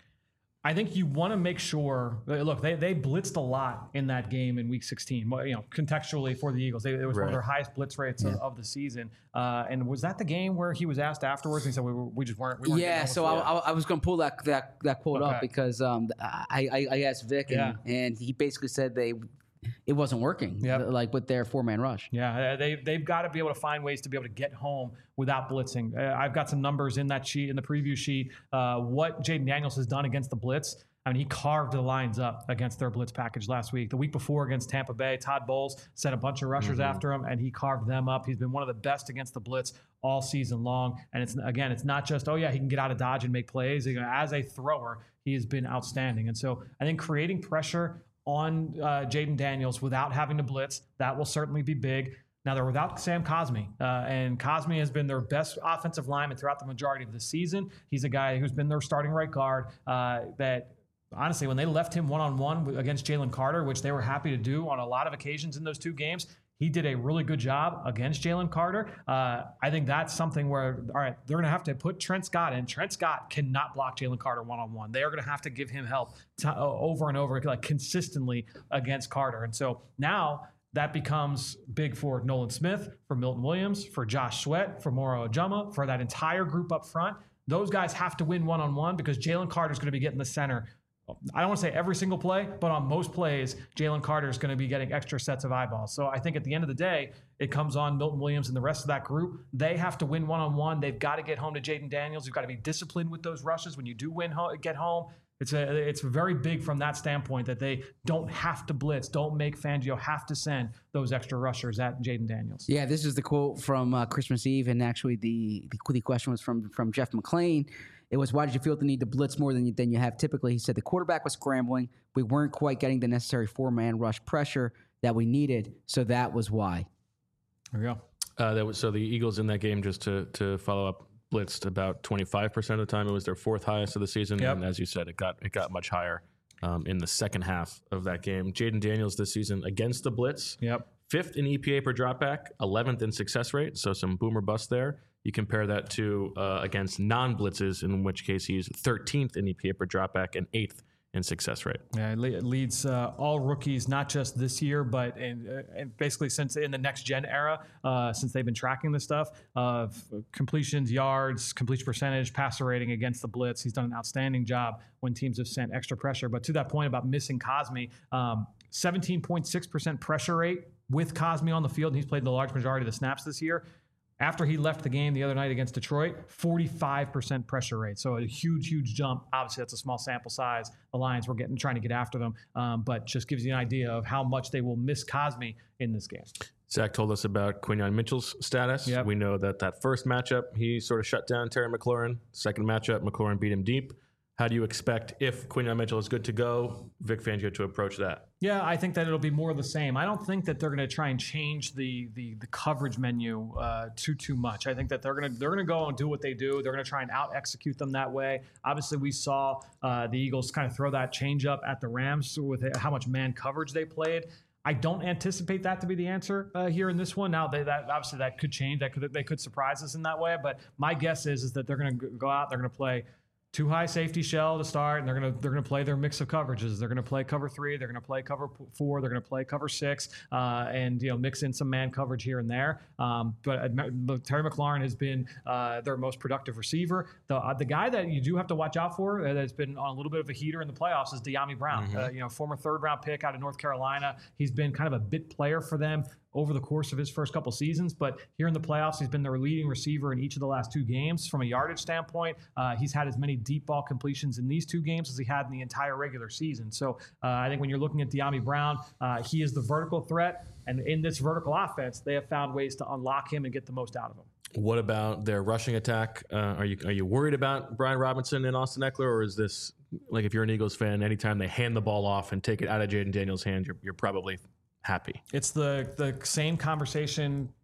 I think you want to make sure. Look, they they blitzed a lot in that game in Week sixteen. You know, contextually for the Eagles, they, it was right. one of their highest blitz rates yeah. of, of the season. Uh, and was that the game where he was asked afterwards? And he said, "We, we just weren't." We weren't yeah. So I, I, I was going to pull that that that quote okay. up because um, I, I I asked Vic and, yeah. and he basically said they. It wasn't working, yep. like with their four-man rush. Yeah, they, they've got to be able to find ways to be able to get home without blitzing. Uh, I've got some numbers in that sheet, in the preview sheet, uh, what Jaden Daniels has done against the blitz. I mean, he carved the lines up against their blitz package last week. The week before against Tampa Bay, Todd Bowles sent a bunch of rushers mm-hmm. after him, and he carved them up. He's been one of the best against the blitz all season long. And it's again, it's not just, oh, yeah, he can get out of dodge and make plays. You know, as a thrower, he has been outstanding. And so I think creating pressure on uh, Jaden Daniels without having to blitz, that will certainly be big. Now, they're without Sam Cosmi, uh, and Cosmi has been their best offensive lineman throughout the majority of the season. He's a guy who's been their starting right guard uh, that honestly, when they left him one-on-one against Jalen Carter, which they were happy to do on a lot of occasions in those two games, he did a really good job against Jalen Carter. Uh, I think that's something where, all right, they're going to have to put Trent Scott in. Trent Scott cannot block Jalen Carter one-on-one. They are going to have to give him help to, uh, over and over, like consistently against Carter. And so now that becomes big for Nolan Smith, for Milton Williams, for Josh Sweat, for Moro Ojama, for that entire group up front. Those guys have to win one-on-one because Jalen Carter is going to be getting the center. I don't want to say every single play, but on most plays, Jalen Carter is going to be getting extra sets of eyeballs. So I think at the end of the day, it comes on Milton Williams and the rest of that group. They have to win one-on-one. They've got to get home to Jaden Daniels. You've got to be disciplined with those rushes. When you do win, get home, it's a, it's very big from that standpoint that they don't have to blitz, don't make Fangio have to send those extra rushers at Jaden Daniels. Yeah, this is the quote from uh, Christmas Eve, and actually the, the, the question was from, from Jeff McClain. It was, why did you feel the need to blitz more than you, than you have typically? He said the quarterback was scrambling. We weren't quite getting the necessary four-man rush pressure that we needed, so that was why. There you go. Uh, that was, so the Eagles in that game, just to to follow up, blitzed about twenty-five percent of the time. It was their fourth highest of the season, yep. and as you said, it got it got much higher um, in the second half of that game. Jaden Daniels this season against the blitz, yep. fifth in E P A per dropback, eleventh in success rate, so some boomer bust there. You compare that to uh, against non-blitzes, in which case he's thirteenth in E P A per dropback and eighth in success rate. Yeah, it leads uh, all rookies, not just this year, but in, uh, and basically since in the next gen era, uh, since they've been tracking this stuff of completions, yards, completion percentage, passer rating against the blitz. He's done an outstanding job when teams have sent extra pressure. But to that point about missing Cosmi, um, seventeen point six percent pressure rate with Cosmi on the field, and he's played the large majority of the snaps this year. After he left the game the other night against Detroit, forty-five percent pressure rate. So a huge, huge jump. Obviously, that's a small sample size. The Lions were getting trying to get after them, um, but just gives you an idea of how much they will miss Cosmi in this game. Zach told us about Quinyon Mitchell's status. Yep. We know that that first matchup, he sort of shut down Terry McLaurin. Second matchup, McLaurin beat him deep. How do you expect, if Quinyon Mitchell is good to go, Vic Fangio to approach that? Yeah, I think that it'll be more of the same. I don't think that they're going to try and change the the, the coverage menu uh, too too much. I think that they're going to they're going to go and do what they do. They're going to try and out execute them that way. Obviously, we saw uh, the Eagles kind of throw that change up at the Rams with how much man coverage they played. I don't anticipate that to be the answer uh, here in this one. Now, they, that obviously that could change. That could they could surprise us in that way. But my guess is is that they're going to go out. They're going to play two high safety shell to start, and they're gonna they're gonna play their mix of coverages. They're gonna play cover three, they're gonna play cover four, they're gonna play cover six, uh, and you know mix in some man coverage here and there. Um, but uh, Terry McLaurin has been uh, their most productive receiver. The uh, the guy that you do have to watch out for uh, that's been on a little bit of a heater in the playoffs is Dyami Brown. Mm-hmm. Uh, you know, former third round pick out of North Carolina. He's been kind of a bit player for them over the course of his first couple seasons, but here in the playoffs, he's been their leading receiver in each of the last two games. From a yardage standpoint, uh, he's had as many deep ball completions in these two games as he had in the entire regular season. So uh, I think when you're looking at Dyami Brown, uh, he is the vertical threat, and in this vertical offense, they have found ways to unlock him and get the most out of him. What about their rushing attack? Uh, are you are you worried about Brian Robinson and Austin Eckler, or is this, like, if you're an Eagles fan, anytime they hand the ball off and take it out of Jaden Daniels' hands, you're, you're probably happy? It's the the same conversation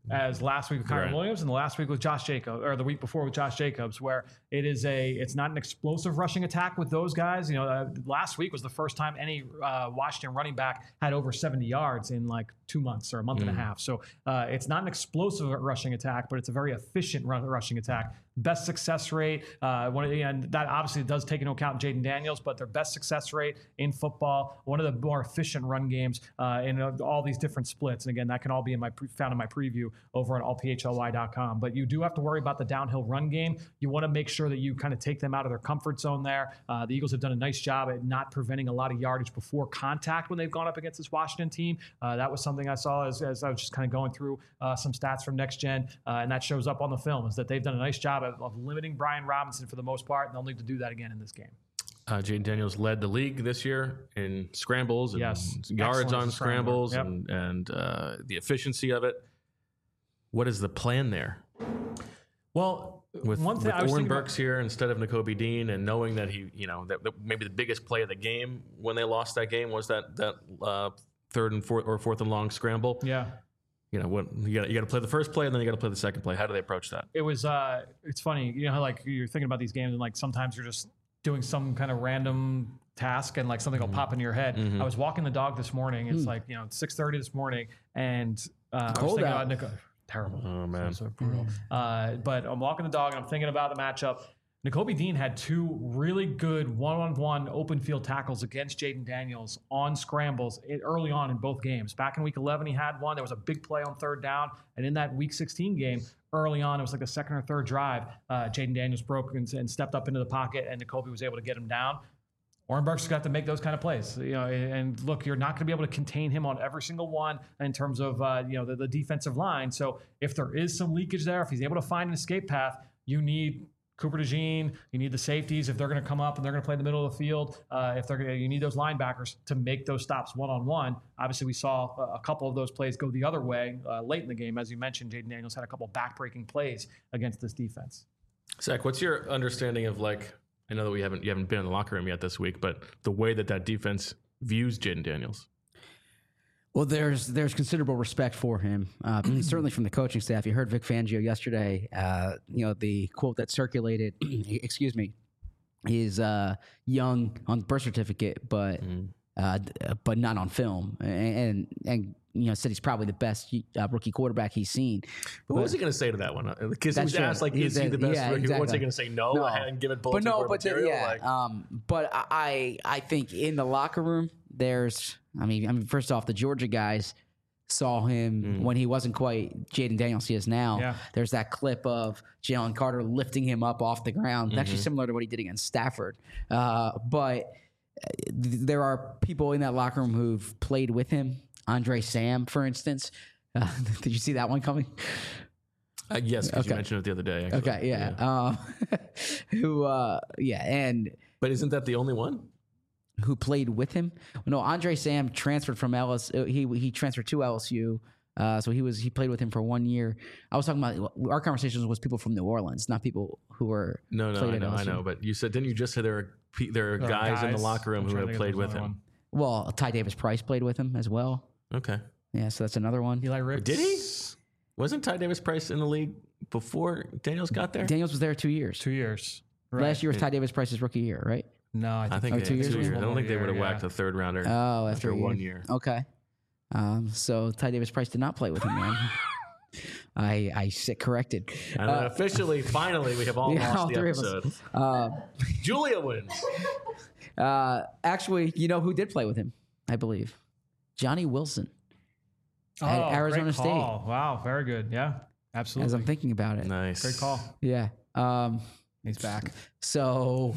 as last week with Kyron Right. Williams and the last week with Josh Jacobs, or the week before with Josh Jacobs, where it is a, it's not an explosive rushing attack with those guys. You know, uh, last week was the first time any uh, Washington running back had over seventy yards in like two months or a month mm. and a half. So uh, it's not an explosive rushing attack, but it's a very efficient run, rushing attack. Best success rate, uh, one of the, and that obviously does take into account Jaden Daniels, but their best success rate in football, one of the more efficient run games uh, in uh, all these different splits. And again, that can all be in my pre- found in my preview over on all P H L Y dot com. But you do have to worry about the downhill run game. You want to make sure that you kind of take them out of their comfort zone there. Uh, the Eagles have done a nice job at not preventing a lot of yardage before contact when they've gone up against this Washington team. Uh, that was something I saw as, as I was just kind of going through uh, some stats from Next Gen, uh, and that shows up on the film, is that they've done a nice job of, of limiting Brian Robinson for the most part, and they'll need to do that again in this game. Uh, Jaden Daniels led the league this year in scrambles and yes. yards Excellent on scrambles yep. and, and uh, the efficiency of it. What is the plan there? Well, with, one thing with I was Oren thinking Burks about, here instead of Nakobe Dean, and knowing that he, you know, that, that maybe the biggest play of the game when they lost that game was that that uh, third and fourth or fourth and long scramble. Yeah. You know, what you got you got to play the first play and then you got to play the second play. How do they approach that? It was uh, it's funny, you know, how like you're thinking about these games and like sometimes you're just doing some kind of random task and like something will mm-hmm. pop into your head. Mm-hmm. I was walking the dog this morning. It's mm. like, you know, six thirty this morning, and uh, I was thinking out. about Nico. Terrible. Oh man. So, so brutal. Mm. Uh, but I'm walking the dog and I'm thinking about the matchup. Nakobe Dean had two really good one-on-one open field tackles against Jaden Daniels on scrambles early on in both games. Back in week eleven, he had one. There was a big play on third down. And in that week sixteen game, early on, it was like the second or third drive, uh, Jaden Daniels broke and, and stepped up into the pocket, and Nakobe was able to get him down. Oren Burks got to make those kind of plays, you know. And look, you're not going to be able to contain him on every single one in terms of uh, you know the, the defensive line. So if there is some leakage there, if he's able to find an escape path, you need Cooper DeJean, you need the safeties if they're going to come up and they're going to play in the middle of the field. Uh, if they're going to, you need those linebackers to make those stops one on one. Obviously, we saw a, a couple of those plays go the other way uh, late in the game, as you mentioned. Jaden Daniels had a couple backbreaking plays against this defense. Zach, what's your understanding of, like, I know that we haven't you haven't been in the locker room yet this week, but the way that that defense views Jaden Daniels? Well, there's there's considerable respect for him, uh, certainly from the coaching staff. You heard Vic Fangio yesterday. Uh, you know, the quote that circulated, excuse me, is uh, young on the birth certificate, but mm. uh, but not on film, and, and and you know said he's probably the best uh, rookie quarterback he's seen. But, but what was he going to say to that one? Because he was asked, like, is he the best yeah, rookie? exactly. What's he going to say? No, no. and give it bulletin but no, board but material? The, yeah, like, um, but I I think in the locker room there's. I mean, I mean, first off, the Georgia guys saw him mm. when he wasn't quite Jaden Daniels he is now. Yeah. There's that clip of Jalen Carter lifting him up off the ground. Mm-hmm. Actually similar to what he did against Stafford. Uh, but th- there are people in that locker room who've played with him. Andre Sam, for instance. Uh, did you see that one coming? Uh, yes, because okay. you mentioned it the other day. Actually. Okay, yeah. yeah. Um, who, uh, yeah, and... But isn't that the only one? Who played with him? No, Andre Sam transferred from L S U. He he transferred to L S U, uh, so he was he played with him for one year. I was talking about our conversations was people from New Orleans, not people who were no no I know I know. But you said didn't you just say there are there are guys, guys in the locker room who have played with him? One. Well, Ty Davis Price played with him as well. Okay, yeah, so that's another one. Eli Ricks. Did he? Wasn't Ty Davis Price in the league before Daniels got there? Daniels was there two years. Two years. Right. Last year was Ty Davis Price's rookie year, right? No, I think, I think oh, they, two years. Two years. I don't think they would have yeah. whacked a third rounder. Oh, after, after one year. Okay. Um, so Ty Davis Price did not play with him, man. I I sit corrected. And uh, officially, finally, we have all yeah, lost all the episode. Uh, Julia wins. Uh, actually, you know who did play with him? I believe Johnny Wilson oh, at Arizona great State. Call. Wow, very good. Yeah, absolutely. As I'm thinking about it, nice, great call. Yeah. Um, He's back. So,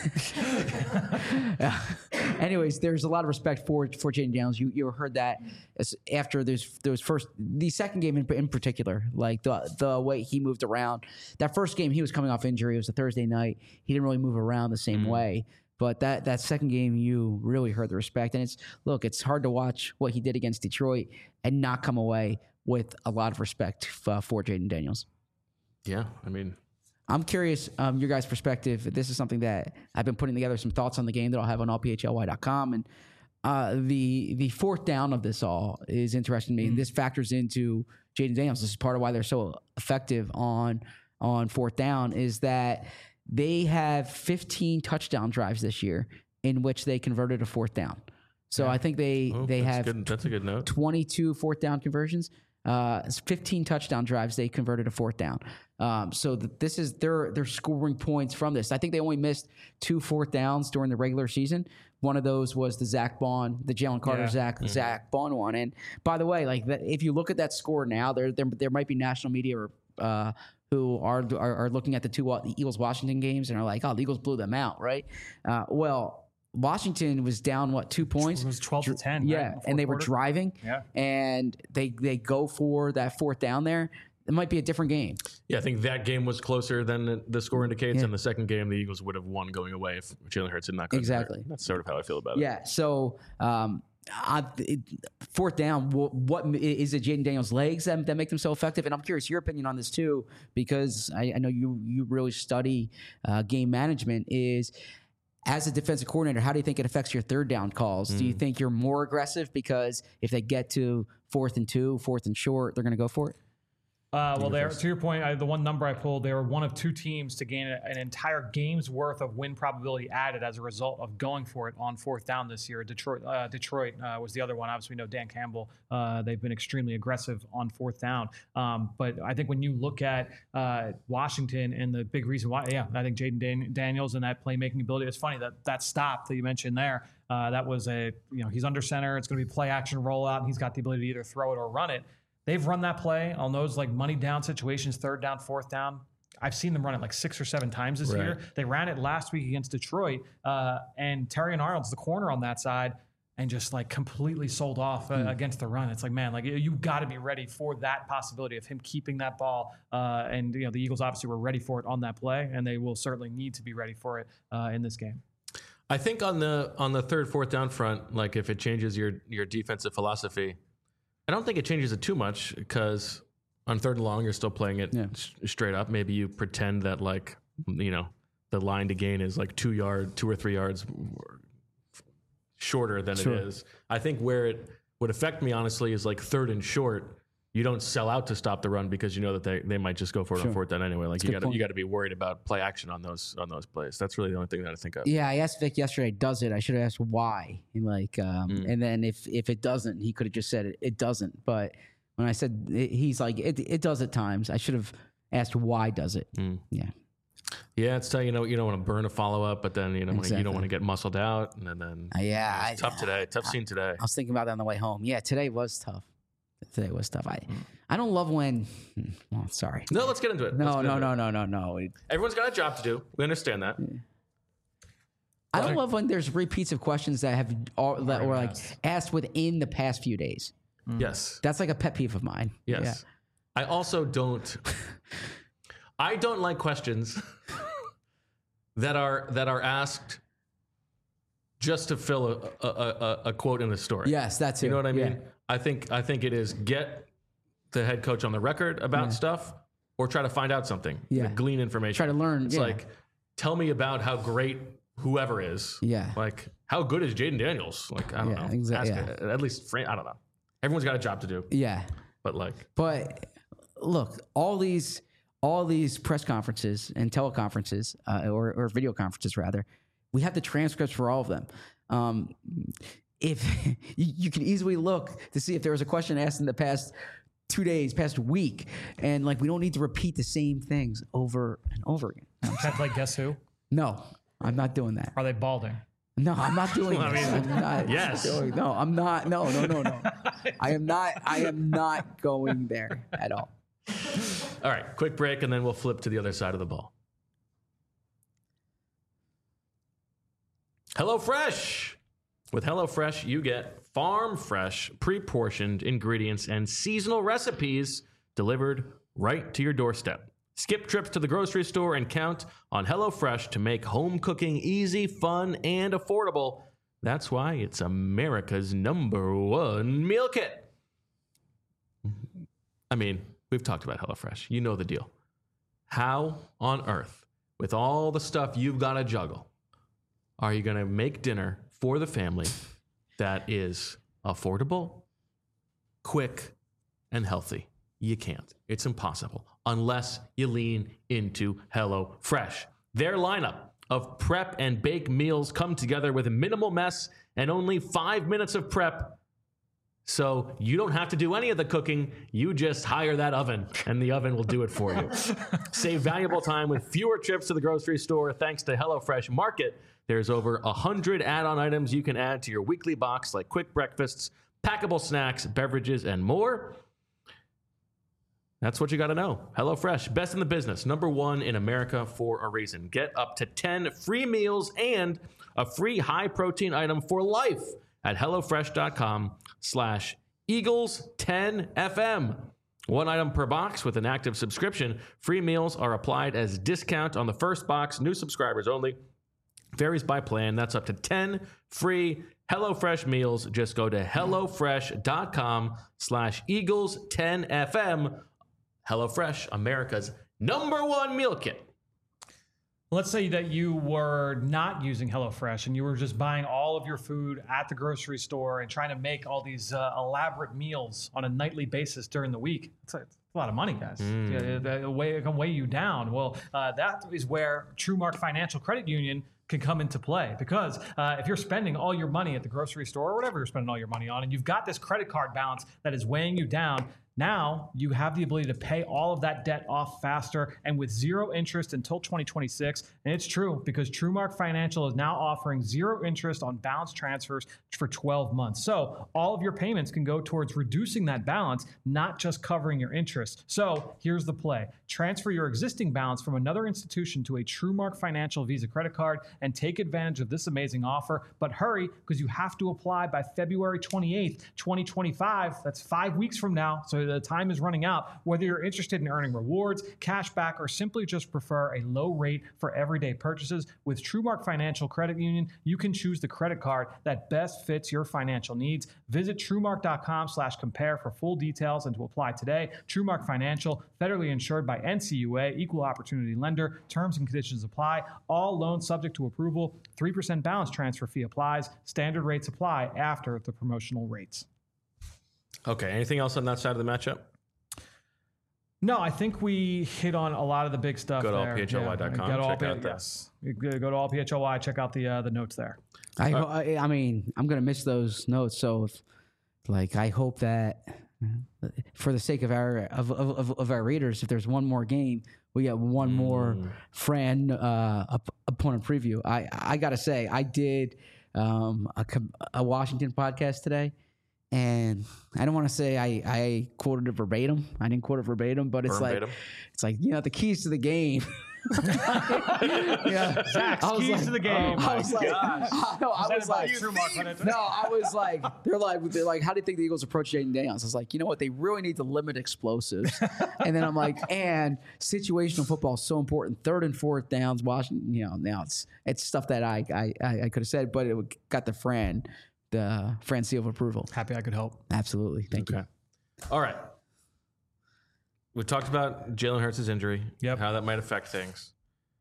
anyways, there's a lot of respect for for Jaden Daniels. You you heard that as after those those first the second game in, in particular, like the the way he moved around. That first game, he was coming off injury. It was a Thursday night. He didn't really move around the same mm. way. But that that second game, you really heard the respect. And it's look, it's hard to watch what he did against Detroit and not come away with a lot of respect f- for Jaden Daniels. Yeah, I mean. I'm curious, um, your guys' perspective. This is something that I've been putting together some thoughts on the game that I'll have on all P H L Y dot com. And uh, the the fourth down of this all is interesting to me. Mm-hmm. And this factors into Jaden Daniels. This is part of why they're so effective on on fourth down is that they have fifteen touchdown drives this year in which they converted a fourth down. So yeah. I think they oh, they that's have good. That's a good note. twenty-two fourth down conversions. Uh, fifteen touchdown drives they converted a fourth down. Um, so th- this is they're they're scoring points from this. I think they only missed two fourth downs during the regular season. One of those was the Zach Bond, the Jalen Carter, yeah. Zach mm-hmm. Zach Bond one. And by the way, like that, if you look at that score now, there there there might be national media or, uh, who are, are are looking at the two the Eagles Washington games and are like, oh, the Eagles blew them out, right? Uh, well, Washington was down what two points? It was twelve to ten. Yeah, right? and they quarter. were driving. Yeah, and they they go for that fourth down there. It might be a different game. Yeah, I think that game was closer than the score indicates. Yeah. And the second game, the Eagles would have won going away if Jalen Hurts had not gotten exactly. There. That's sort of how I feel about yeah, it. Yeah. So, um, I, it, fourth down. What, what is it? Jaden Daniels' legs that, that make them so effective? And I'm curious your opinion on this too, because I, I know you you really study uh, game management. Is as a defensive coordinator, how do you think it affects your third down calls? Mm. Do you think you're more aggressive because if they get to fourth and two, fourth and short, they're going to go for it? Uh, well, there to your point, I, the one number I pulled, they were one of two teams to gain a, an entire game's worth of win probability added as a result of going for it on fourth down this year. Detroit, uh, Detroit uh, was the other one. Obviously, we know Dan Campbell. Uh, they've been extremely aggressive on fourth down. Um, but I think when you look at uh, Washington and the big reason why, yeah, I think Jaden Dan- Daniels and that playmaking ability. It's funny that that stop that you mentioned there. Uh, that was a you know he's under center. It's going to be play action rollout, and he's got the ability to either throw it or run it. They've run that play on those like money down situations, third down, fourth down. I've seen them run it like six or seven times this right. year. They ran it last week against Detroit, uh, and Terrion Arnold's the corner on that side, and just like completely sold off uh, mm. against the run. It's like, man, like you got to be ready for that possibility of him keeping that ball. Uh, and you know the Eagles obviously were ready for it on that play, and they will certainly need to be ready for it uh, in this game. I think on the on the third, fourth down front, like if it changes your your defensive philosophy. I don't think it changes it too much because on third and long, you're still playing it yeah. s- straight up. Maybe you pretend that like, you know, the line to gain is like two yard, two or three yards shorter than sure. it is. I think where it would affect me, honestly, is like third and short. You don't sell out to stop the run because you know that they, they might just go for it sure. on fourth down anyway. Like That's you got you got to be worried about play action on those on those plays. That's really the only thing that I think of. Yeah, I asked Vic yesterday, does it? I should have asked why. And like, um, mm. and then if if it doesn't, he could have just said it. It doesn't. But when I said it, he's like, it it does at times. I should have asked why does it? Mm. Yeah. Yeah, it's telling you know you don't want to burn a follow up, but then you know exactly. you don't want to get muscled out, and then, then uh, yeah, it's I, tough today. Tough scene today. I was thinking about that on the way home. Yeah, today was tough. Today was tough. I, I don't love when. Well, sorry. No, let's get into it. No, no, no, no, no, no. It, Everyone's got a job to do. We understand that. I don't love when there's repeats of questions that have all, that were like asked within the past few days. Mm. Yes, that's like a pet peeve of mine. Yes, yeah. I also don't. I don't like questions that are that are asked just to fill a a, a, a quote in the story. Yes, that's it. You know what I mean? Yeah. I think I think it is get the head coach on the record about yeah. stuff, or try to find out something. Yeah, like glean information. Try to learn. It's yeah. like tell me about how great whoever is. Yeah. Like how good is Jaden Daniels? Like I don't yeah, know. Exactly. Ask yeah. At least I don't know. Everyone's got a job to do. Yeah. But like. But look, all these all these press conferences and teleconferences, uh, or or video conferences rather, we have the transcripts for all of them. Um, If you, you can easily look to see if there was a question asked in the past two days, past week, and like we don't need to repeat the same things over and over again. Kind of like Guess Who? No, I'm not doing that. Are they balding? No, I'm not doing well, this. I mean, I'm not yes. Doing, no, I'm not. No, no, no, no. I am not. I am not going there at all. All right, quick break, and then we'll flip to the other side of the ball. HelloFresh. With HelloFresh, you get farm-fresh, pre-portioned ingredients and seasonal recipes delivered right to your doorstep. Skip trips to the grocery store and count on HelloFresh to make home cooking easy, fun, and affordable. That's why it's America's number one meal kit. I mean, we've talked about HelloFresh. You know the deal. How on earth, with all the stuff you've got to juggle, are you going to make dinner for the family that is affordable, quick, and healthy? You can't. It's impossible unless you lean into HelloFresh. Their lineup of prep and bake meals come together with a minimal mess and only five minutes of prep. So you don't have to do any of the cooking. You just hire that oven, and the oven will do it for you. Save valuable time with fewer trips to the grocery store thanks to HelloFresh Market. There's over one hundred add-on items you can add to your weekly box, like quick breakfasts, packable snacks, beverages, and more. That's what you got to know. HelloFresh, best in the business, number one in America for a reason. Get up to ten free meals and a free high-protein item for life at HelloFresh.com slash Eagles 10FM. One item per box with an active subscription. Free meals are applied as discount on the first box. New subscribers only. Varies by plan. That's up to ten free HelloFresh meals. Just go to HelloFresh.com slash Eagles 10FM. HelloFresh, America's number one meal kit. Let's say that you were not using HelloFresh and you were just buying all of your food at the grocery store and trying to make all these uh, elaborate meals on a nightly basis during the week. It's a, it's a lot of money, guys. Mm. It, it, it, weigh, it can weigh you down. Well, uh, that is where TrueMark Financial Credit Union can come into play, because uh, if you're spending all your money at the grocery store or whatever you're spending all your money on, and you've got this credit card balance that is weighing you down, now you have the ability to pay all of that debt off faster and with zero interest until twenty twenty-six. And it's true, because TrueMark Financial is now offering zero interest on balance transfers for twelve months. So all of your payments can go towards reducing that balance, not just covering your interest. So here's the play. Transfer your existing balance from another institution to a TrueMark Financial Visa credit card and take advantage of this amazing offer. But hurry, because you have to apply by February twenty-eighth, twenty twenty-five. That's five weeks from now. So the time is running out. Whether you're interested in earning rewards, cash back, or simply just prefer a low rate for everyday purchases, with TrueMark Financial Credit Union, you can choose the credit card that best fits your financial needs. Visit TrueMark.com slash compare for full details and to apply today. TrueMark Financial, federally insured by N C U A, equal opportunity lender. Terms and conditions apply. All loans subject to approval. three percent balance transfer fee applies. Standard rates apply after the promotional rates. Okay, anything else on that side of the matchup? No, I think we hit on a lot of the big stuff. Go to there. all P H L Y dot com. Yeah, check all, out yes. Go to all P H L Y, check out the uh, the notes there. I, I I mean, I'm gonna miss those notes. So, if, like, I hope that for the sake of our of, of of our readers, if there's one more game, we get one mm. more Fran uh, opponent preview. I I gotta say, I did um, a, a Washington podcast today. And I don't want to say I, I quoted it verbatim. I didn't quote it verbatim, but it's Verbatim. like it's like you know the keys to the game. yeah, Zach's keys like, to the game. Oh I was like, gosh. I, no, I was like, no, I was like, they're like, they're like, how do you think the Eagles approach Jaden Daniels? I was like, you know what, they really need to limit explosives. And then I'm like, and situational football is so important. Third and fourth downs, Washington. You know, now it's it's stuff that I I, I could have said, but it got the Fran. The Fran seal of approval. Happy I could help. Absolutely. Thank okay. you. All right. We talked about Jalen Hurts' injury, yep. how that might affect things.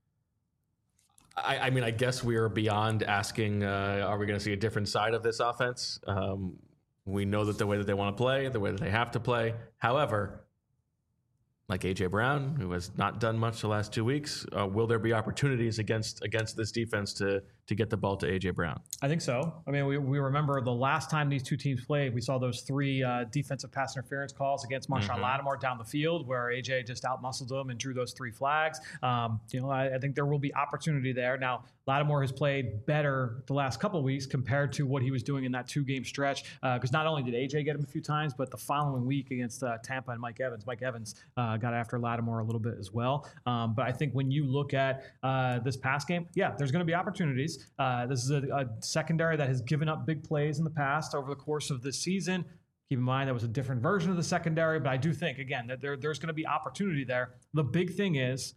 I, I mean, I guess we are beyond asking, uh, are we going to see a different side of this offense? Um, we know that the way that they want to play, the way that they have to play. However, like A J Brown, who has not done much the last two weeks, uh, will there be opportunities against against this defense to to get the ball to A J Brown? I think so. I mean, we, we remember the last time these two teams played, we saw those three uh, defensive pass interference calls against Marshawn mm-hmm. Lattimore down the field, where A J just outmuscled him and drew those three flags. Um, you know, I, I think there will be opportunity there. Now, Lattimore has played better the last couple of weeks compared to what he was doing in that two-game stretch, because uh, not only did A J get him a few times, but the following week against uh, Tampa and Mike Evans, Mike Evans uh, got after Lattimore a little bit as well. Um, but I think when you look at uh, this pass game, yeah, there's going to be opportunities. Uh, this is a, a secondary that has given up big plays in the past over the course of this season. Keep in mind that was a different version of the secondary, but I do think, again, that there, there's going to be opportunity there. The big thing is,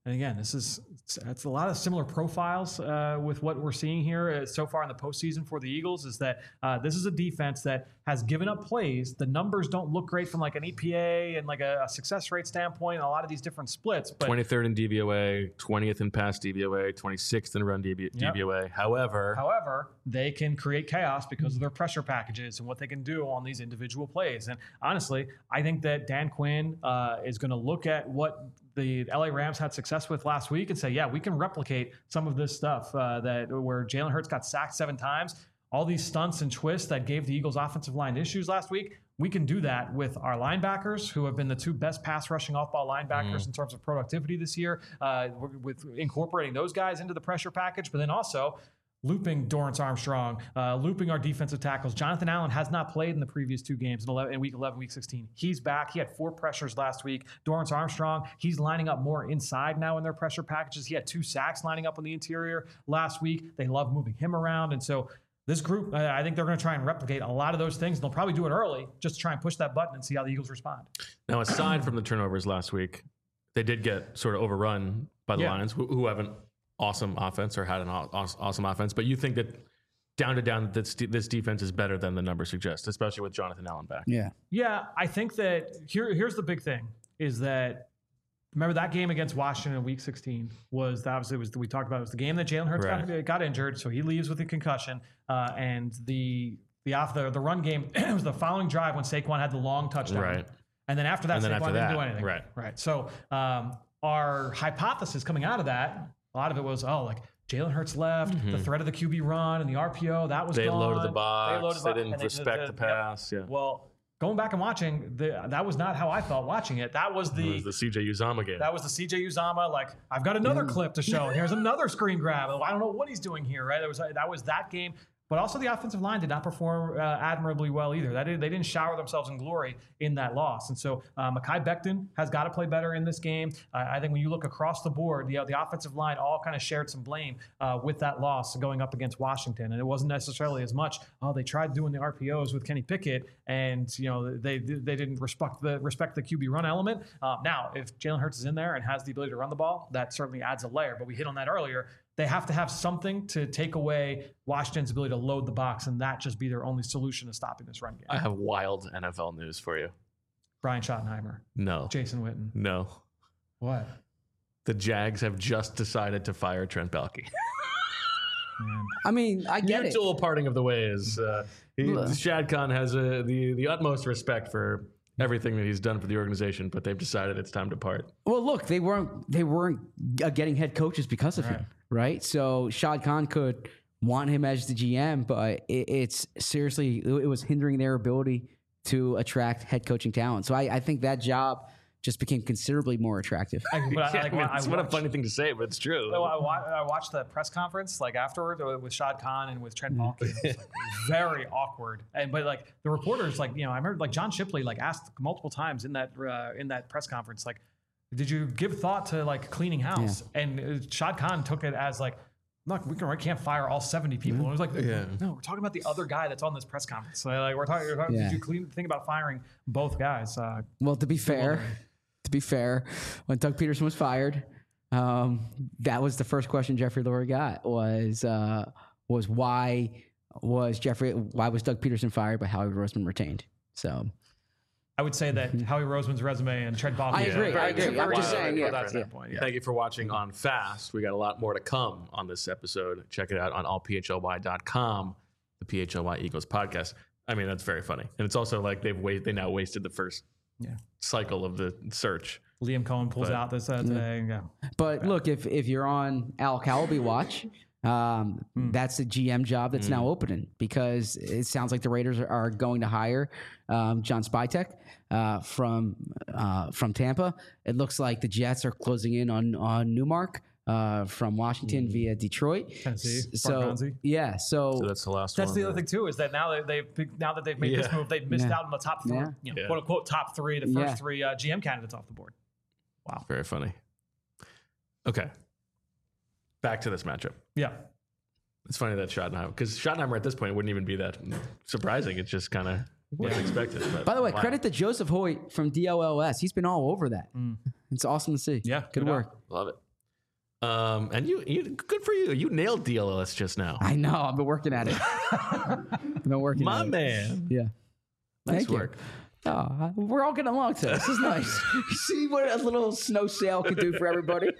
And again, this is it's, it's a lot of similar profiles uh, with what we're seeing here uh, so far in the postseason for the Eagles. Is that uh, this is a defense that has given up plays. The numbers don't look great from like an E P A and like a, a success rate standpoint. A lot of these different splits. But twenty-third in D V O A, twentieth in pass D V O A, twenty-sixth in run D V O A. Yep. However, however, they can create chaos because of their pressure packages and what they can do on these individual plays. And honestly, I think that Dan Quinn uh, is going to look at what the L A Rams had success with last week and say, yeah, we can replicate some of this stuff uh, that where Jalen Hurts got sacked seven times. All these stunts and twists that gave the Eagles offensive line issues last week, we can do that with our linebackers, who have been the two best pass rushing off-ball linebackers mm. in terms of productivity this year, uh, with incorporating those guys into the pressure package, but then also looping Dorrance Armstrong, uh, looping our defensive tackles. Jonathan Allen has not played in the previous two games in, eleven, in week eleven, week sixteen. He's back. He had four pressures last week. Dorrance Armstrong, he's lining up more inside now in their pressure packages. He had two sacks lining up on the interior last week. They love moving him around. And so this group, uh, I think they're going to try and replicate a lot of those things. And they'll probably do it early just to try and push that button and see how the Eagles respond. Now, aside from the turnovers last week, they did get sort of overrun by the yeah. Lions, who, who haven't awesome offense or had an awesome offense, but you think that down to down this this defense is better than the numbers suggest, especially with Jonathan Allen back. Yeah, yeah. I think that here here's the big thing is that remember that game against Washington in Week sixteen was that obviously was we talked about it was the game that Jalen Hurts right. got, got injured, so he leaves with a concussion, uh, and the the off the the run game it was the following drive when Saquon had the long touchdown, right, and then after that and then Saquon after didn't that, do anything, right, right. So um, our hypothesis coming out of that. A lot of it was, oh, like Jalen Hurts left, mm-hmm. the threat of the Q B run and the R P O, that was they gone. Loaded the box. They loaded the They box. didn't and respect they, the, the pass. Yep. Yeah. Well, going back and watching, the, that was not how I felt watching it. That was the, it was the C J Uzomah game. That was the C J Uzomah. Like, I've got another mm. clip to show. And here's another screen grab. I don't know what he's doing here, right? That was, that was that game. But also the offensive line did not perform uh, admirably well either. That did, they didn't shower themselves in glory in that loss. And so uh, Mekhi Becton has got to play better in this game. Uh, I think when you look across the board, the, uh, the offensive line all kind of shared some blame uh, with that loss going up against Washington. And it wasn't necessarily as much, oh, they tried doing the R P Os with Kenny Pickett and, you know, they they didn't respect the respect the Q B run element. Uh, now, if Jalen Hurts is in there and has the ability to run the ball, that certainly adds a layer. But we hit on that earlier. They have to have something to take away Washington's ability to load the box, and that just be their only solution to stopping this run game. I have wild N F L news for you. Brian Schottenheimer. No. Jason Witten. No. What? The Jags have just decided to fire Trent Baalke. Man. I mean, I get Mutual it. Mutual parting of the ways. Uh, he, Shad Khan has uh, the, the utmost respect for everything that he's done for the organization, but they've decided it's time to part. Well, look, they weren't they weren't uh, getting head coaches because of right. him, right? So Shad Khan could want him as the G M, but it, it's seriously it was hindering their ability to attract head coaching talent. So I, I think that job just became considerably more attractive. I, but I, yeah, like, I mean, I it's watched, what a funny thing to say, but it's true. I, I watched the press conference like afterward with Shad Khan and with Trent Baalke. It was like very awkward. And but like the reporters, like you know, I remember like John Shipley like asked multiple times in that uh, in that press conference, like, did you give thought to like cleaning house? Yeah. And uh, Shad Khan took it as like, look, we, can, we can't fire all seventy people. Mm-hmm. And it was like, yeah. no, we're talking about the other guy that's on this press conference. So, like we're talking. We're talking yeah. Did you clean, think about firing both guys? Uh, well, to be fair. To be fair, when Doug Peterson was fired, um, that was the first question Jeffrey Lurie got was uh, was why was Jeffrey why was Doug Peterson fired but Howie Roseman retained? So I would say that Howie Roseman's resume and Trent Baalke. I agree. Yeah, I agree. I'm just saying. Yeah, that's yeah. that point. Yeah. Thank you for watching on Fast. We got a lot more to come on this episode. Check it out on all p h l y dot com, the P H L Y Eagles podcast. I mean, that's very funny, and it's also like they've wait they now wasted the first. Yeah. Cycle of the search. Liam Cohen pulls but, out this uh, today. Yeah. But yeah. look, if if you're on Al Calaby watch, um, mm. that's the G M job that's mm. now opening because it sounds like the Raiders are, are going to hire um, John Spytek uh, from uh, from Tampa. It looks like the Jets are closing in on on Newmark. Uh, from Washington mm. via Detroit, Tennessee. So yeah, so, so that's the last. That's one, the right? other thing too is that now that they've now that they've made yeah. this move, they've missed yeah. out on the top three, yeah. you know, yeah. quote unquote top three, the first yeah. three uh, G M candidates off the board. Wow, very funny. Okay, back to this matchup. Yeah, it's funny that Schottenheimer because Schottenheimer at this point wouldn't even be that surprising. It's just kind of what's yeah. expected. But, by the way, wow. credit to Joseph Hoyt from D O L S. He's been all over that. Mm. It's awesome to see. Yeah, good, good work. Love it. Um, and you, you, good for you. You nailed D L S just now. I know. I've been working at it. I've been working My at it. man. Yeah. Nice Thank work. You. Oh, we're all getting along today. This is nice. You see what a little snow sail can do for everybody?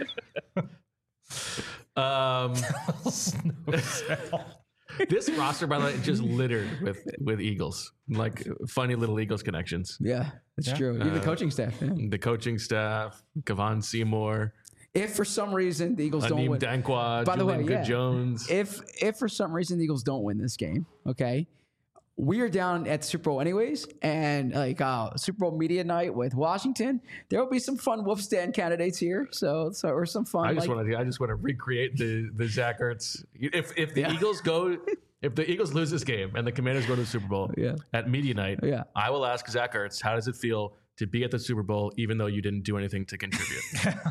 Um, Snow sail. this roster, by the way, is just littered with, with Eagles, like funny little Eagles connections. Yeah, that's Yeah. true. Even the Uh, coaching staff. Yeah. The coaching staff, Kevon Seymour, If for some reason the Eagles don't Aneem win, Dankwa, By the way, Julian yeah. Good-Jones. if if for some reason the Eagles don't win this game, okay, we are down at Super Bowl anyways, and like uh, Super Bowl media night with Washington, there will be some fun Wolf stand candidates here. So so or some fun. I just like, want to. I just want to recreate the the Zach Ertz. If if the Yeah. Eagles go, if the Eagles lose this game and the Commanders go to the Super Bowl Yeah. at media night, Yeah. I will ask Zach Ertz, how does it feel to be at the Super Bowl even though you didn't do anything to contribute?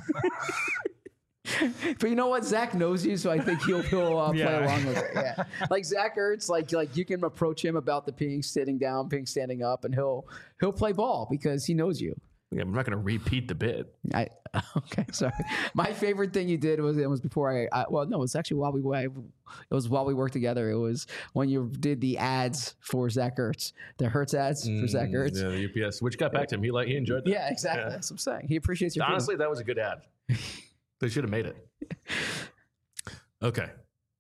But you know what? Zach knows you, so I think he'll, he'll uh, play Yeah. along with it. Yeah, like Zach Ertz, like like you can approach him about the peeing sitting down, peeing standing up, and he'll he'll play ball because he knows you. Yeah, I'm not going to repeat the bit. I okay, sorry. My favorite thing you did was it was before I, I well no, it was actually while we it was while we worked together. It was when you did the ads for Zach Ertz, the Hertz ads for Zach Ertz. Mm, Yeah, the U P S, which got back to him. He like he enjoyed that. Yeah, exactly. Yeah. That's what I'm saying. He appreciates your Honestly, that was a good ad. They should have made it. Okay.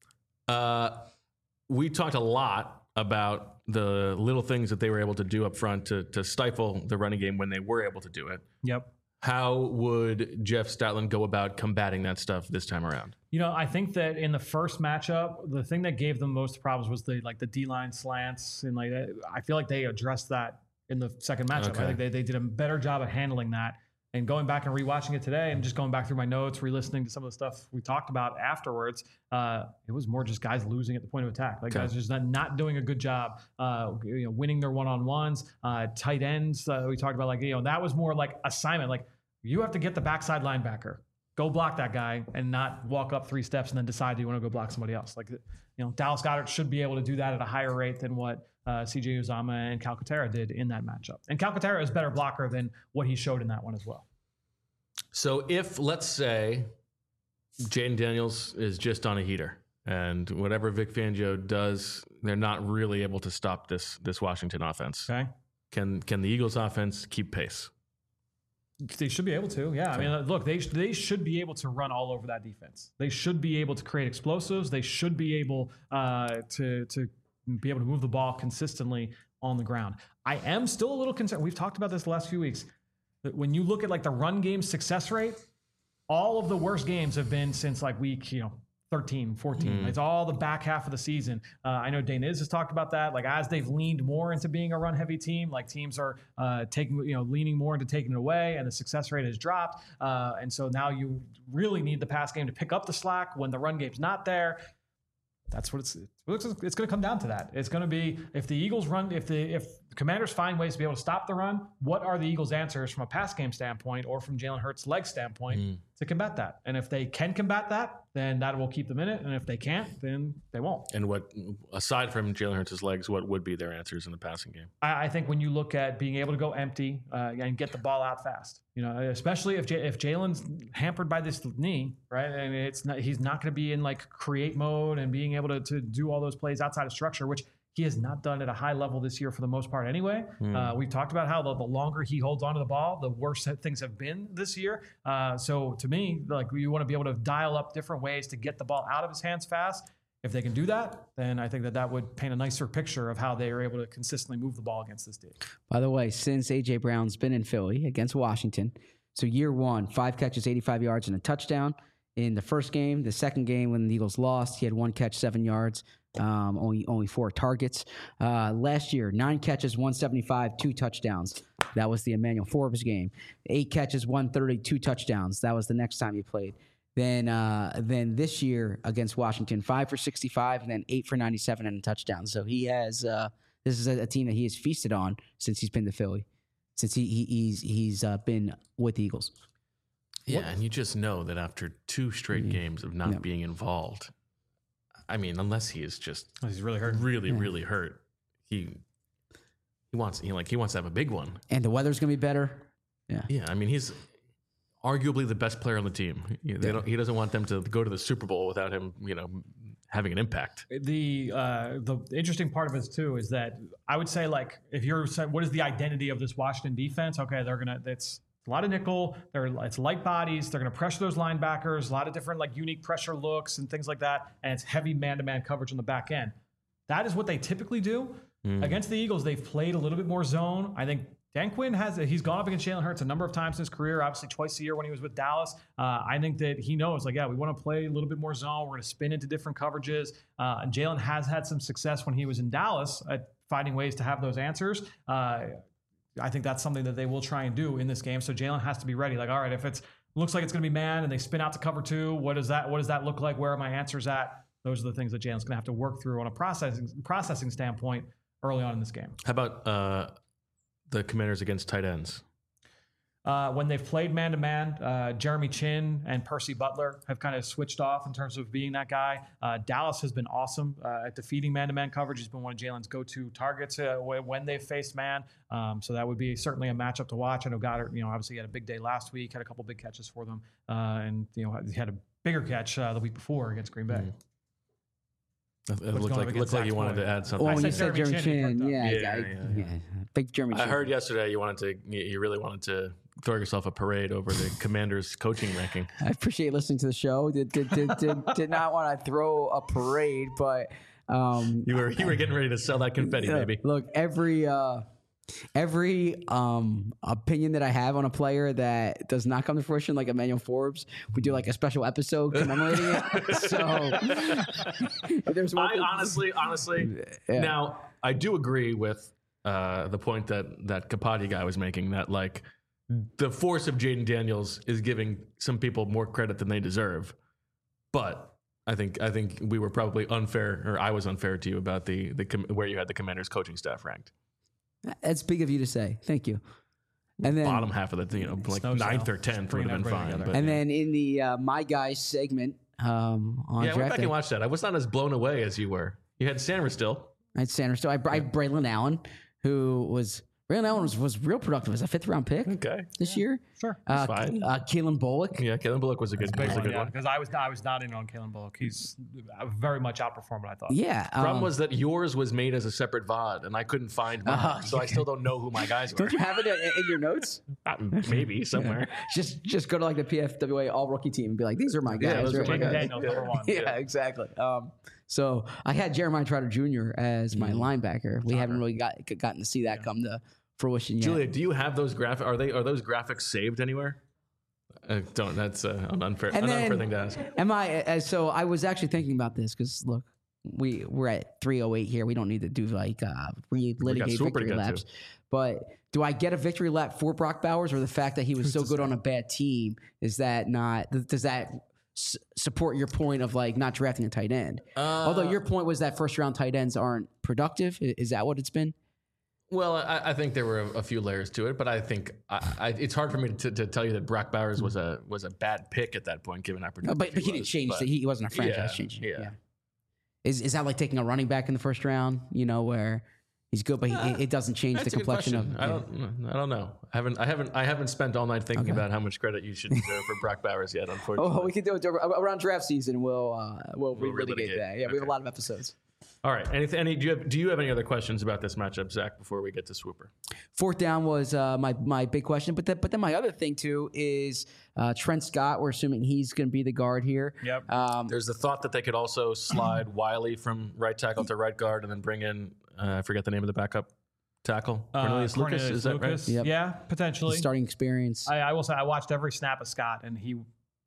Uh, we talked a lot about the little things that they were able to do up front to, to stifle the running game when they were able to do it. Yep. How would Jeff Stoutland go about combating that stuff this time around? You know, I think that in the first matchup, the thing that gave them most problems was the like the D line slants, and like I feel like they addressed that in the second matchup. Okay. I think they, they did a better job at handling that. And going back and rewatching it today, and just going back through my notes, re-listening to some of the stuff we talked about afterwards, uh, it was more just guys losing at the point of attack. Like Okay. guys just not, not doing a good job, uh, you know, winning their one-on-ones, uh, tight ends. Uh, we talked about like you know that was more like assignment. Like you have to get the backside linebacker, go block that guy, and not walk up three steps and then decide you want to go block somebody else. Like you know, Dallas Goedert should be able to do that at a higher rate than what uh, C J Uzomah and Calcaterra did in that matchup. And Calcaterra is a better blocker than what he showed in that one as well. So if, let's say, Jaden Daniels is just on a heater and whatever Vic Fangio does, they're not really able to stop this this Washington offense. Okay. Can can the Eagles offense keep pace? They should be able to, yeah. I mean, look, they they should be able to run all over that defense. They should be able to create explosives. They should be able uh, to to be able to move the ball consistently on the ground. I am still a little concerned. We've talked about this the last few weeks. That when you look at like the run game success rate, all of the worst games have been since like week, you know, thirteen, fourteen. Mm. It's all the back half of the season. Uh, I know Dane Iz has talked about that. Like as they've leaned more into being a run-heavy team, like teams are uh, taking, you know, leaning more into taking it away, and the success rate has dropped. Uh, and so now you really need the pass game to pick up the slack when the run game's not there. That's what it's. It's, it's going to come down to that. It's going to be if the Eagles run, if the if the Commanders find ways to be able to stop the run, what are the Eagles' answers from a pass game standpoint or from Jalen Hurts' leg standpoint Mm. to combat that? And if they can combat that, then that will keep them in it. And if they can't, then they won't. And what, aside from Jalen Hurts' legs, what would be their answers in the passing game? I, I think when you look at being able to go empty uh, and get the ball out fast, you know, especially if J- if Jalen's hampered by this knee, right, and it's not, he's not going to be in like create mode and being able to to do all those plays outside of structure, which he has not done at a high level this year for the most part anyway. Mm. Uh, we've talked about how the, the longer he holds onto the ball, the worse that things have been this year. Uh, so to me, like you want to be able to dial up different ways to get the ball out of his hands fast. If they can do that, then I think that that would paint a nicer picture of how they are able to consistently move the ball against this team. By the way, since A J Brown's been in Philly against Washington, so year one, five catches, eighty-five yards, and a touchdown. In the first game, the second game when the Eagles lost, he had one catch, seven yards, um, only only four targets. Uh, last year, nine catches, one seventy-five, two touchdowns. That was the Emmanuel Forbes game. Eight catches, one thirty, two touchdowns. That was the next time he played. Then, uh, then this year against Washington, five for sixty-five, and then eight for ninety-seven and a touchdown. So he has. Uh, this is a, a team that he has feasted on since he's been to Philly, since he, he he's he's uh, been with the Eagles. Yeah, and you just know that after two straight Mhm. games of not Yep. being involved, I mean, unless he is just He's really hurt. really, Yeah. really hurt, he he wants he like he wants to have a big one. And the weather's gonna be better. Yeah, I mean, he's arguably the best player on the team. They Yeah. don't, he doesn't want them to go to the Super Bowl without him, you know, having an impact. The uh, the interesting part of it too is that I would say, like, if you're saying what is the identity of this Washington defense? Okay, they're gonna it's a lot of nickel. They're it's light bodies. They're gonna pressure those linebackers. A lot of different like unique pressure looks and things like that. And it's heavy man-to-man coverage on the back end. That is what they typically do. Mm. Against the Eagles, they've played a little bit more zone. I think Dan Quinn has he's gone up against Jalen Hurts a number of times in his career, obviously twice a year when he was with Dallas. Uh, I think that he knows, like, yeah, we want to play a little bit more zone. We're going to spin into different coverages. Uh, and Jalen has had some success when he was in Dallas at finding ways to have those answers. Uh, I think that's something that they will try and do in this game. So Jalen has to be ready. Like, all right, if it's looks like it's going to be man and they spin out to cover two, what does that what does that look like? Where are my answers at? Those are the things that Jalen's going to have to work through on a processing processing standpoint early on in this game. How about uh, the Commanders against tight ends? Uh, when they've played man-to-man, uh, Jeremy Chin and Percy Butler have kind of switched off in terms of being that guy. Uh, Dallas has been awesome uh, at defeating man-to-man coverage. He's been one of Jalen's go-to targets uh, when they've faced man. Um, so that would be certainly a matchup to watch. I know Goddard, you know, obviously he had a big day last week, had a couple big catches for them, uh, and you know he had a bigger catch uh, the week before against Green Bay. Mm-hmm. It looked like, looked like you wanted to add something. Well, when I you said said Jeremy Jeremy Chin, Chin, yeah, Yeah, I, yeah, yeah, yeah. big Jeremy I Chin. heard yesterday you wanted to, you you really wanted to throw yourself a parade over the Commanders' coaching ranking. I appreciate listening to the show. Did did did, did, did not want to throw a parade, but um, You were you were getting ready to sell that confetti, uh, baby. Look, every uh, every um, opinion that I have on a player that does not come to fruition, like Emmanuel Forbes, we do like a special episode commemorating it. So if there's one I thing- honestly, honestly, Yeah. now I do agree with uh, the point that that Capati guy was making, that like the force of Jaden Daniels is giving some people more credit than they deserve. But I think I think we were probably unfair, or I was unfair to you about the the com- where you had the Commanders' coaching staff ranked. That's big of you to say. Thank you. And then Bottom half of the, you know, like no ninth sell. or tenth Just would bringing have been everybody fine. together. But, and then in the uh, My Guys segment um, on yeah, I went draft back day, and watched that. I was not as blown away as you were. You had Sanders still. I had Sanders. So I, I had Braylon Allen, who was Braylon Allen was, was real productive as a fifth round pick Okay. this year. Sure. Uh, fine. uh, Keelan Bullock. Yeah, Kellen Bullock was a good, was a good one. Because I was I was not in on Kalen Bullock. He's very much outperformed what I thought. Yeah. Problem um, was that yours was made as a separate V O D, and I couldn't find mine, Oh, so I still don't know who my guys were. don't you have it in, in your notes? Uh, Maybe somewhere. Just just go to like the P F W A all rookie team and be like, these are my guys. Yeah, those are right? my Jaden guys. Daniels, number one. Yeah, exactly. Um, so I had Jeremiah Trotter Junior as my linebacker. We haven't really got gotten to see that come to fruition yet. Julia, do you have those graphics? Are they are those graphics saved anywhere? Uh, don't. That's uh, an unfair, And an then- unfair thing to ask. Am I? Uh, so I was actually thinking about this because look, we we're at three oh eight here. We don't need to do like uh, relitigate Super to victory get to. laps. But do I get a victory lap for Brock Bowers, or the fact that he was so good on a bad team is that not? th- Does that s- support your point of like not drafting a tight end? Although your point was that first round tight ends aren't productive. I- Is that what it's been? Well, I, I think there were a, a few layers to it, but I think I, I, it's hard for me to, to tell you that Brock Bowers was a was a bad pick at that point, given how No, productive but, but he was. didn't change. But- the, he wasn't a franchise Yeah, changer. yeah. Yeah. Is is that like taking a running back in the first round? You know where he's good, but he, it doesn't change the That's a good complexion of. question. I don't. I don't know. I haven't. I haven't. I haven't spent all night thinking about how much credit you should deserve for Brock Bowers yet. Unfortunately. Oh, we can do it around draft season. We'll uh, we'll, We'll relitigate relitigate. that. Yeah, we have a lot of episodes. All right. Anything? Any? Do you have? Do you have any other questions about this matchup, Zach? Before we get to Swooper. Fourth down was uh, my my big question, but then but then my other thing too is uh, Trent Scott. We're assuming he's going to be the guard here. Yep. Um, There's the thought that they could also slide Wiley from right tackle to right guard, and then bring in uh, I forget the name of the backup tackle. Uh, Cornelius Lucas. Cornelius Is that Lucas. right? Yep. Yeah, potentially. starting experience. I, I will say I watched every snap of Scott, and he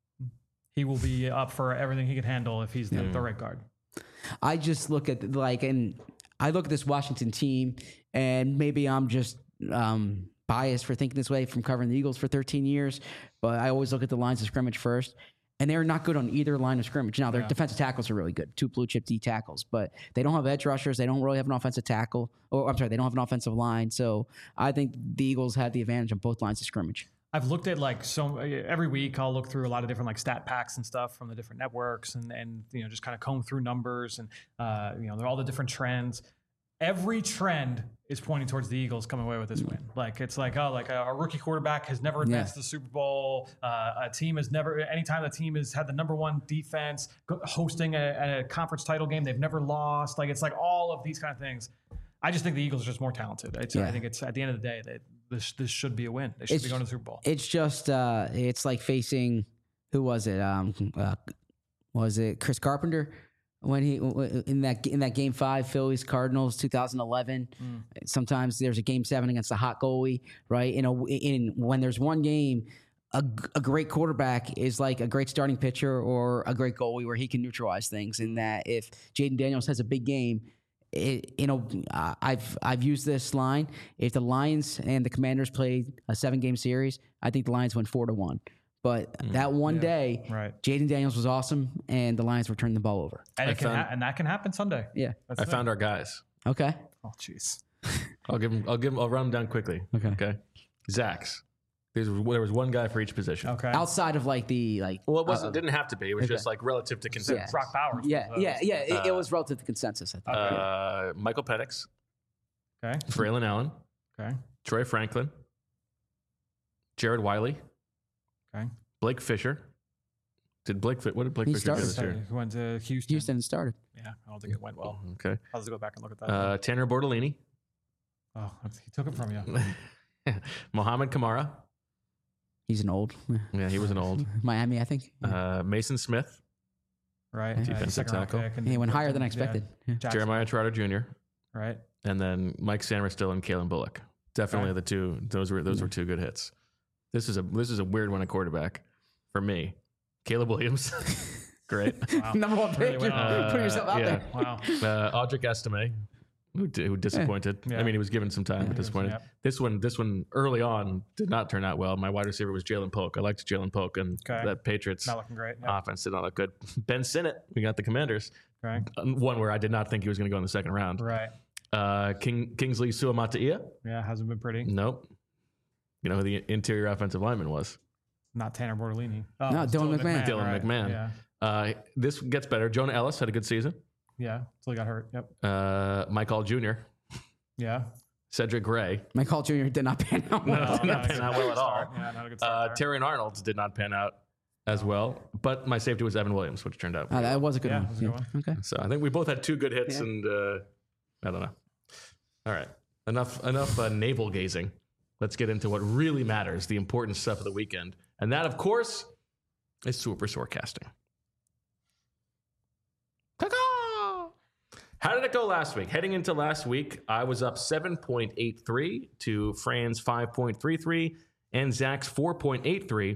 he will be up for everything he can handle if he's the, the right guard. I just look at like, and I look at this Washington team, and maybe I'm just um, biased for thinking this way from covering the Eagles for thirteen years, but I always look at the lines of scrimmage first, and they're not good on either line of scrimmage. Now, their Yeah. defensive tackles are really good, two blue chip D tackles, but they don't have edge rushers. They don't really have an offensive tackle, or I'm sorry, they don't have an offensive line. So I think the Eagles have the advantage on both lines of scrimmage. I've looked at like so every week I'll look through a lot of different like stat packs and stuff from the different networks and and you know just kind of comb through numbers and uh, you know they're all the different trends. every trend is pointing towards the Eagles coming away with this win. Like it's like, oh, like a, a rookie quarterback has never advanced Yeah. to the Super Bowl. Uh, a team has never, anytime the team has had the number one defense go- hosting a, a conference title game, they've never lost. Like it's like all of these kind of things. I just think the Eagles are just more talented. It's, Yeah. I think it's at the end of the day that this this should be a win. They should It's- be going to the Super Bowl. It's just uh, it's like facing who was it? Um, uh, was it Chris Carpenter when he in that in that game five Phillies Cardinals two thousand eleven? Mm. Sometimes there's a game seven against a hot goalie, right? In a in when there's one game. A, a great quarterback is like a great starting pitcher or a great goalie where he can neutralize things. In that, if Jaden Daniels has a big game, it, you know, uh, I've I've used this line. If the Lions and the Commanders played a seven game series, I think the Lions went four to one. But that one day, Right. Jaden Daniels was awesome, and the Lions were turning the ball over. And, I it can found- ha- and that can happen Sunday. Yeah. That's I the found thing. our guys. Okay. Oh, jeez. I'll give them. I'll give them. I'll run them down quickly. Okay. Okay. Zach's. There's, there was one guy for each position. Okay. Outside of like the like. Well, it wasn't. uh, didn't have to be. It was okay. just like relative to consensus. Brock Bowers. Yeah, was, uh, yeah, yeah. It, it Uh, was relative to consensus. I think. Uh, Michael Penix, Okay. Braylon Allen, Okay. Troy Franklin, Jared Wiley, Okay. Blake Fisher. Did Blake fit? What did Blake He Fisher do started. this year? He went to Houston. Houston started. Yeah, I don't think it went well. Okay. I'll just go back and look at that. Uh, Tanner Bortolini, oh, he took it from you. Mohamed Kamara. He's an old Yeah, he was an old. Miami, I think. Uh, Mason Smith, Right. Defensive second round tackle. pick and- he went higher than yeah, expected. Yeah. Jackson, Jeremiah Trotter Junior, Right. and then Mike Samerstill and Kalen Bullock. Definitely Okay. the two. Those were those were two good hits. This is a this is a weird one at quarterback for me. Caleb Williams, great. Wow. Number one pick. Really You're well. putting yourself out Uh, yeah. there. Wow. Uh, Audric Estime, who, di- who disappointed. Yeah. I mean, he was given some time, but disappointed. Yep. This one, this one early on did not turn out well. My wide receiver was Jalen Polk. I liked Jalen Polk, and Okay. that Patriots Not looking great. Yep. offense did not look good. Ben Sinnott, we got the Commanders. Okay. One where I did not think he was going to go in the second round. Right. Uh, King Kingsley Suamataia. Yeah, hasn't been pretty. Nope. You know who the interior offensive lineman was? Not Tanner Bortolini. Oh, No, it's Dylan McMahon. Dylan right. McMahon. Yeah. Uh, this gets better. Jonah Ellis had a good season. Yeah. Until he got hurt. Yep. Uh, Mike Hall Junior Yeah. Cedric Gray. Mike Hall Junior did not pan out well. No, did not pan out well at all. Yeah, not a good start Uh, there. Terry Arnold did not pan out as well, but my safety was Evan Williams, which turned out. Oh, pretty that well. was a good Yeah, one. it was a good Yeah. Okay. So I think we both had two good hits, Yeah. and uh, I don't know. All right, enough enough uh, navel gazing. Let's get into what really matters, the important stuff of the weekend, and that, of course, is super forecasting. Ta-da! How did it go last week? Heading into last week, I was up seven point eight three to Fran's five point three three and Zach's four point eight three.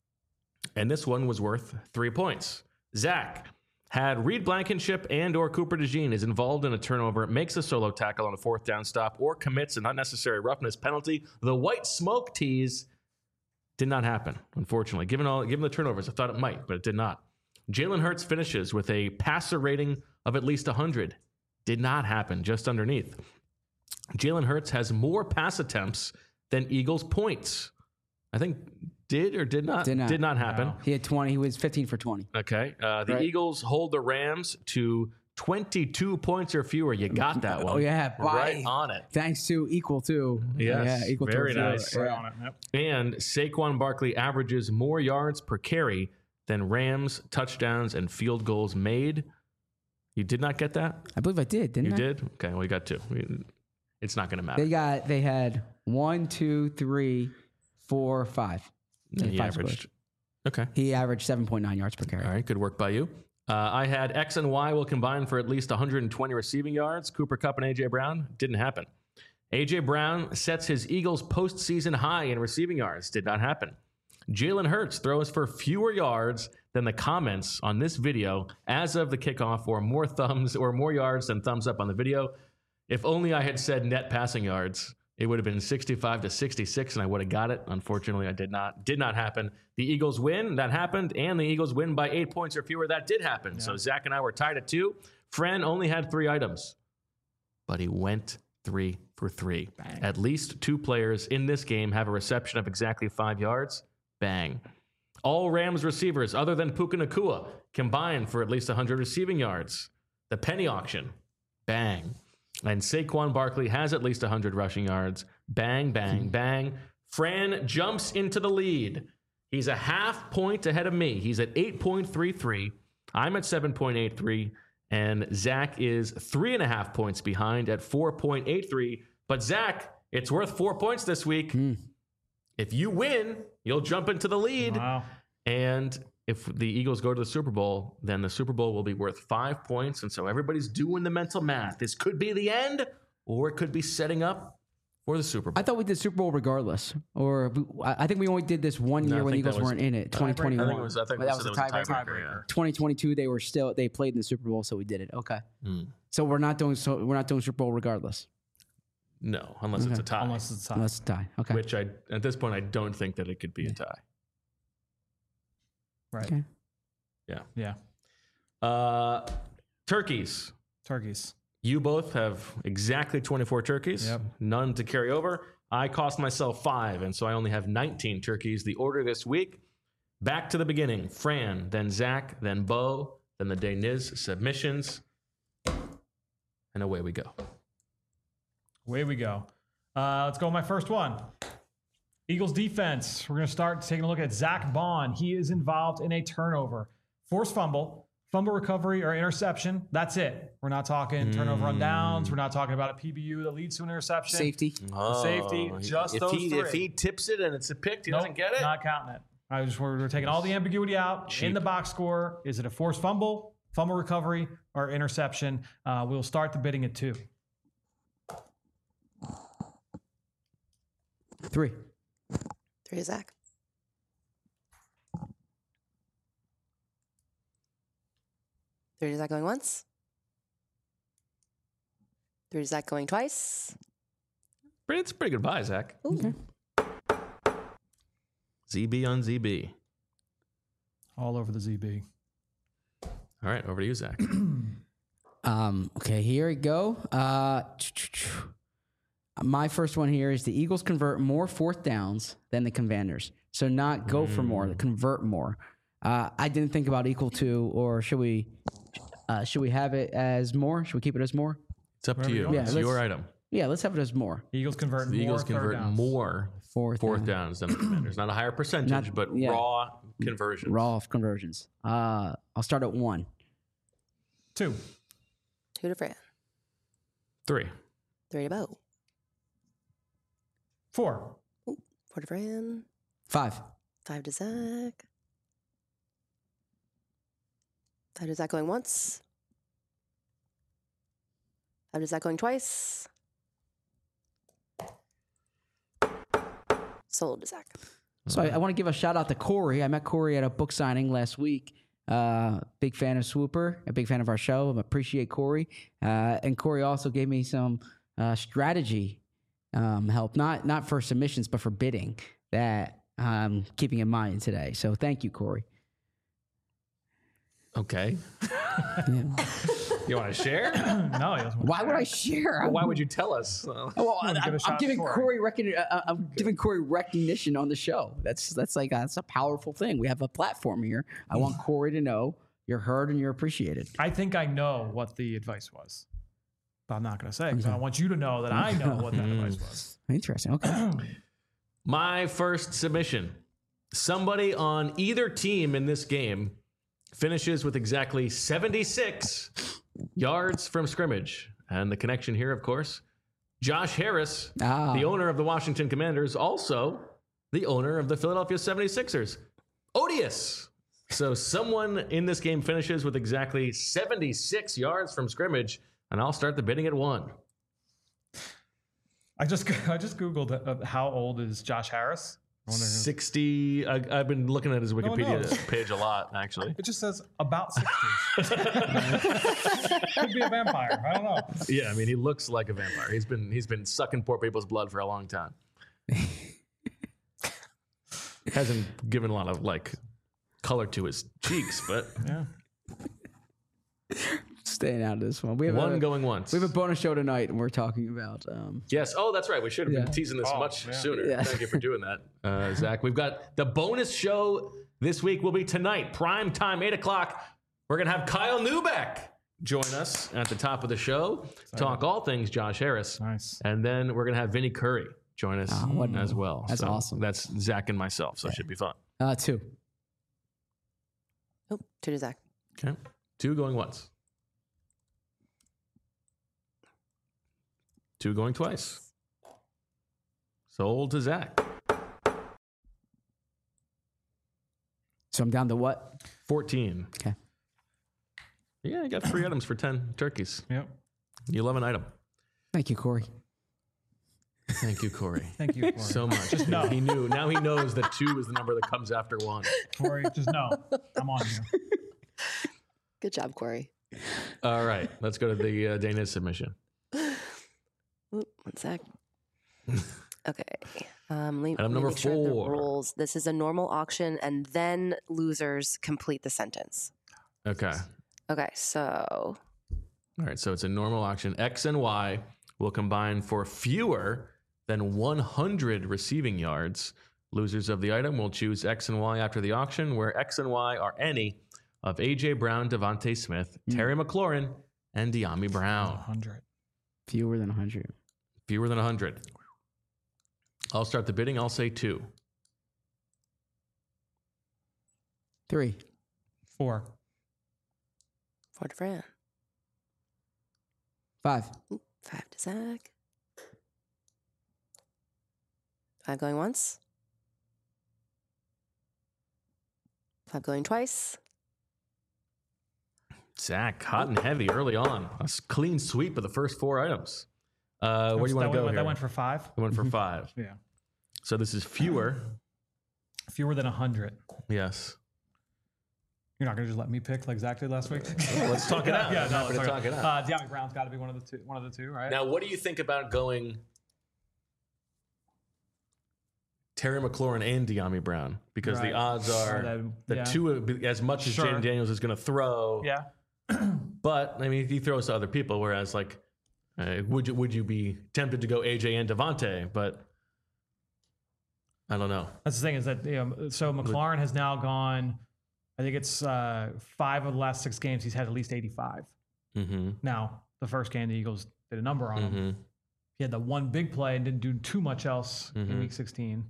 And this one was worth three points. Zach had Reed Blankenship and or Cooper DeJean is involved in a turnover, makes a solo tackle on a fourth down stop, or commits an unnecessary roughness penalty. The white smoke tease did not happen, unfortunately. Given all, given the turnovers, I thought it might, but it did not. Jalen Hurts finishes with a passer rating of at least one hundred. Did not happen, just underneath. Jalen Hurts has more pass attempts than Eagles points. I think did or did not Did not. did not happen. No. He had twenty. He was fifteen for twenty. Okay. Uh, the Right. Eagles hold the Rams to twenty-two points or fewer. You got that one. Oh, yeah. Right By- on it. Thanks to equal to. Yes, Yeah, equal very to zero. nice. Right Yeah. on it. Yep. And Saquon Barkley averages more yards per carry than Rams touchdowns and field goals made. You did not get that? I believe I did, didn't You I? did? Okay, well, you got two. We- It's not going to matter. They got. They had one, two, three, four, five. And he five averaged. scores. Okay. He averaged seven point nine yards per carry. All right, good work by you. Uh, I had X and Y will combine for at least one hundred twenty receiving yards. Cooper Kupp and A J Brown didn't happen. A J Brown sets his Eagles postseason high in receiving yards. Did not happen. Jalen Hurts throws for fewer yards than the comments on this video as of the kickoff, or more thumbs or more yards than thumbs up on the video. If only I had said net passing yards, it would have been sixty-five to sixty-six, and I would have got it. Unfortunately, I did not. Did not happen. The Eagles win. That happened. And the Eagles win by eight points or fewer. That did happen. So Zach and I were tied at two. Fran only had three items, but he went three for three. Bang. At least two players in this game have a reception of exactly five yards. Bang. All Rams receivers other than Puka Nacua combined for at least one hundred receiving yards. The penny auction. Bang. And Saquon Barkley has at least one hundred rushing yards. Bang, bang, bang. Fran jumps into the lead. He's a half point ahead of me. He's at eight point three three. I'm at seven point eight three. And Zach is three and a half points behind at four point eight three. But Zach, it's worth four points this week. Mm. If you win, you'll jump into the lead. Wow. And if the Eagles go to the Super Bowl, then the Super Bowl will be worth five points. And so everybody's doing the mental math. This could be the end, or it could be setting up for the Super Bowl. I thought we did Super Bowl regardless, or we, I I think we only did this one No, year I when the think that Eagles was- weren't in it. twenty twenty-one. I think it was. I think But that was it a was a tiebreaker. tiebreaker. Yeah. twenty twenty-two, they were still they played in the Super Bowl, so we did it. Okay, Mm. so we're not doing so we're not doing Super Bowl regardless, No, unless it's a tie. Unless it's time. unless it's a tie. Okay, Which I, at this point, I don't think that it could be a tie. Right. Okay. Yeah. Yeah. Uh, turkeys. Turkeys. You both have exactly twenty-four turkeys. Yep. None to carry over. I cost myself five, and so I only have nineteen turkeys. The order this week, back to the beginning. Fran, then Zach, then Bo, then the Deniz submissions. And away we go. Away we go. Uh, let's go with my first one. Eagles defense. We're going to start taking a look at Zach Bond. He is involved in a turnover. Forced fumble, fumble recovery, or interception. That's it. We're not talking turnover on downs. We're not talking about a P B U that leads to an interception. safety. Safety, just if those he, three. If he tips it and it's a pick, he Nope, doesn't get it? Not counting it. I just we're, we're taking all the ambiguity out Cheap. in the box score. Is it a forced fumble, fumble recovery, or interception? Uh, we'll start the bidding at two. Three. Three to Zach. Three to Zach going once. Three to Zach going twice. It's a pretty good buy, Zach. Ooh. Z B on Z B. All over the Z B. All right, over to you, Zach. Um, okay, here we go. Uh, my first one here is the Eagles convert more fourth downs than the Commanders. So not go for more, convert more. Uh, I didn't think about equal to, or should we? Uh, should we have it as more? Should we keep it as more? It's up to Wherever you you. want. It's Yeah, your let's- item. Yeah, let's have it as more. Eagles convert The more Eagles third convert downs. more Fourth, fourth down. downs than the Commanders. Not a higher percentage, Not- but yeah. raw conversions. Raw of conversions. Uh, I'll start at one. Two. Two to Fran. Three. Three to Bo. Four. Four to Fran. Five. Five to Zach. Five to Zach going once. Five to Zach going twice. Sold to Zach. So I, I want to give a shout out to Corey. I met Corey at a book signing last week. Uh, big fan of Swooper, a big fan of our show. I appreciate Corey. Uh, and Corey also gave me some uh, strategy um, help, not not for submissions, but for bidding that I'm keeping in mind today. So thank you, Corey. Okay. Yeah. You want to share? No, he doesn't. Why would I share? Well, why would you tell us? Uh, Well, Give a I'm, shot I'm to giving Corey. Corey recognition. Uh, I'm giving Corey recognition on the show. That's that's like a, that's a powerful thing. We have a platform here. I want Corey to know you're heard and you're appreciated. I think I know what the advice was, but I'm not going to say because I want you to know that I know what that advice was. Interesting. Okay. My first submission. Somebody on either team in this game finishes with exactly seventy-six yards from scrimmage. And the connection here, of course, Josh Harris, Ah. the owner of the Washington Commanders, also the owner of the Philadelphia seventy-sixers. Odious. So someone in this game finishes with exactly seventy-six yards from scrimmage, and I'll start the bidding at one. I just I just googled uh, how old is Josh Harris. I wonder who- sixty. I, I've been looking at his Wikipedia knows? page a lot, actually. It just says about sixties. Could be a vampire. I don't know. Yeah, I mean, he looks like a vampire. He's been he's been sucking poor people's blood for a long time. Hasn't given a lot of like color to his cheeks, but Yeah. Staying out of this one. We have one a, going once. We have a bonus show tonight, and we're talking about. Um, Yes. Oh, that's right. We should have Yeah. been teasing this Oh, much yeah. sooner. Yeah. Thank you for doing that, uh, Zach. We've got the bonus show this week will be tonight, prime time, eight o'clock. We're going to have Kyle Newbeck join us at the top of the show, talk all things Josh Harris. Nice. And then we're going to have Vinny Curry join us Oh, what- as well. that's So awesome. That's Zach and myself, so it should be fun. Uh, two. Oh, two to Zach. Okay. Two going once. Two going twice. Sold to Zach. So I'm down to what? fourteen. Okay. Yeah, I got three items for ten turkeys. Yep. You love an item. Thank you, Corey. Thank you, Corey. Thank you, Corey. So much. Just know. He knew. Now he knows that two is the number that comes after one. Corey, just know. I'm on you. Good job, Corey. All right. Let's go to the uh, Dana's submission. Oop, one sec. Okay. Um, let, Item let me number make sure I have the four. rules. This is a normal auction, and then losers complete the sentence. Okay. Okay, so All right. So it's a normal auction. X and Y will combine for fewer than one hundred receiving yards. Losers of the item will choose X and Y after the auction, where X and Y are any of A J Brown, Devontae Smith, Terry McLaurin, and De'Ami Brown. one hundred. Fewer than one hundred. Fewer than one hundred. I'll start the bidding. I'll say two. Three. Four. four to Fran. Five. Oop, Five to Zach. Five going once. Five going twice. Zach, hot and heavy early on. A s- clean sweep of the first four items. Uh, where do you want that to go went, here? That went for five. I went for five. Yeah. So this is fewer. Fewer than one hundred. Yes. You're not going to just let me pick like Zach did last week? Let's talk it out. yeah, I'm no, happy let's to talk talk it it. out. Uh, De'Ami Brown's got to be one of the two. One of the two, right? Now, what do you think about going Terry McLaurin and De'Ami Brown? Because the Right. odds are That- the yeah. two, as much as Sure. Jaden Daniels is going to throw. Yeah. But I mean, he throws to other people. Whereas, like, uh, would you would you be tempted to go A J and Devontae? But I don't know. That's the thing is that you know, so McLaurin has now gone. I think it's uh, five of the last six games. He's had at least eighty-five. Mm-hmm. Now, the first game, the Eagles did a number on him. Mm-hmm. He had the one big play and didn't do too much else Mhm. in Week sixteen.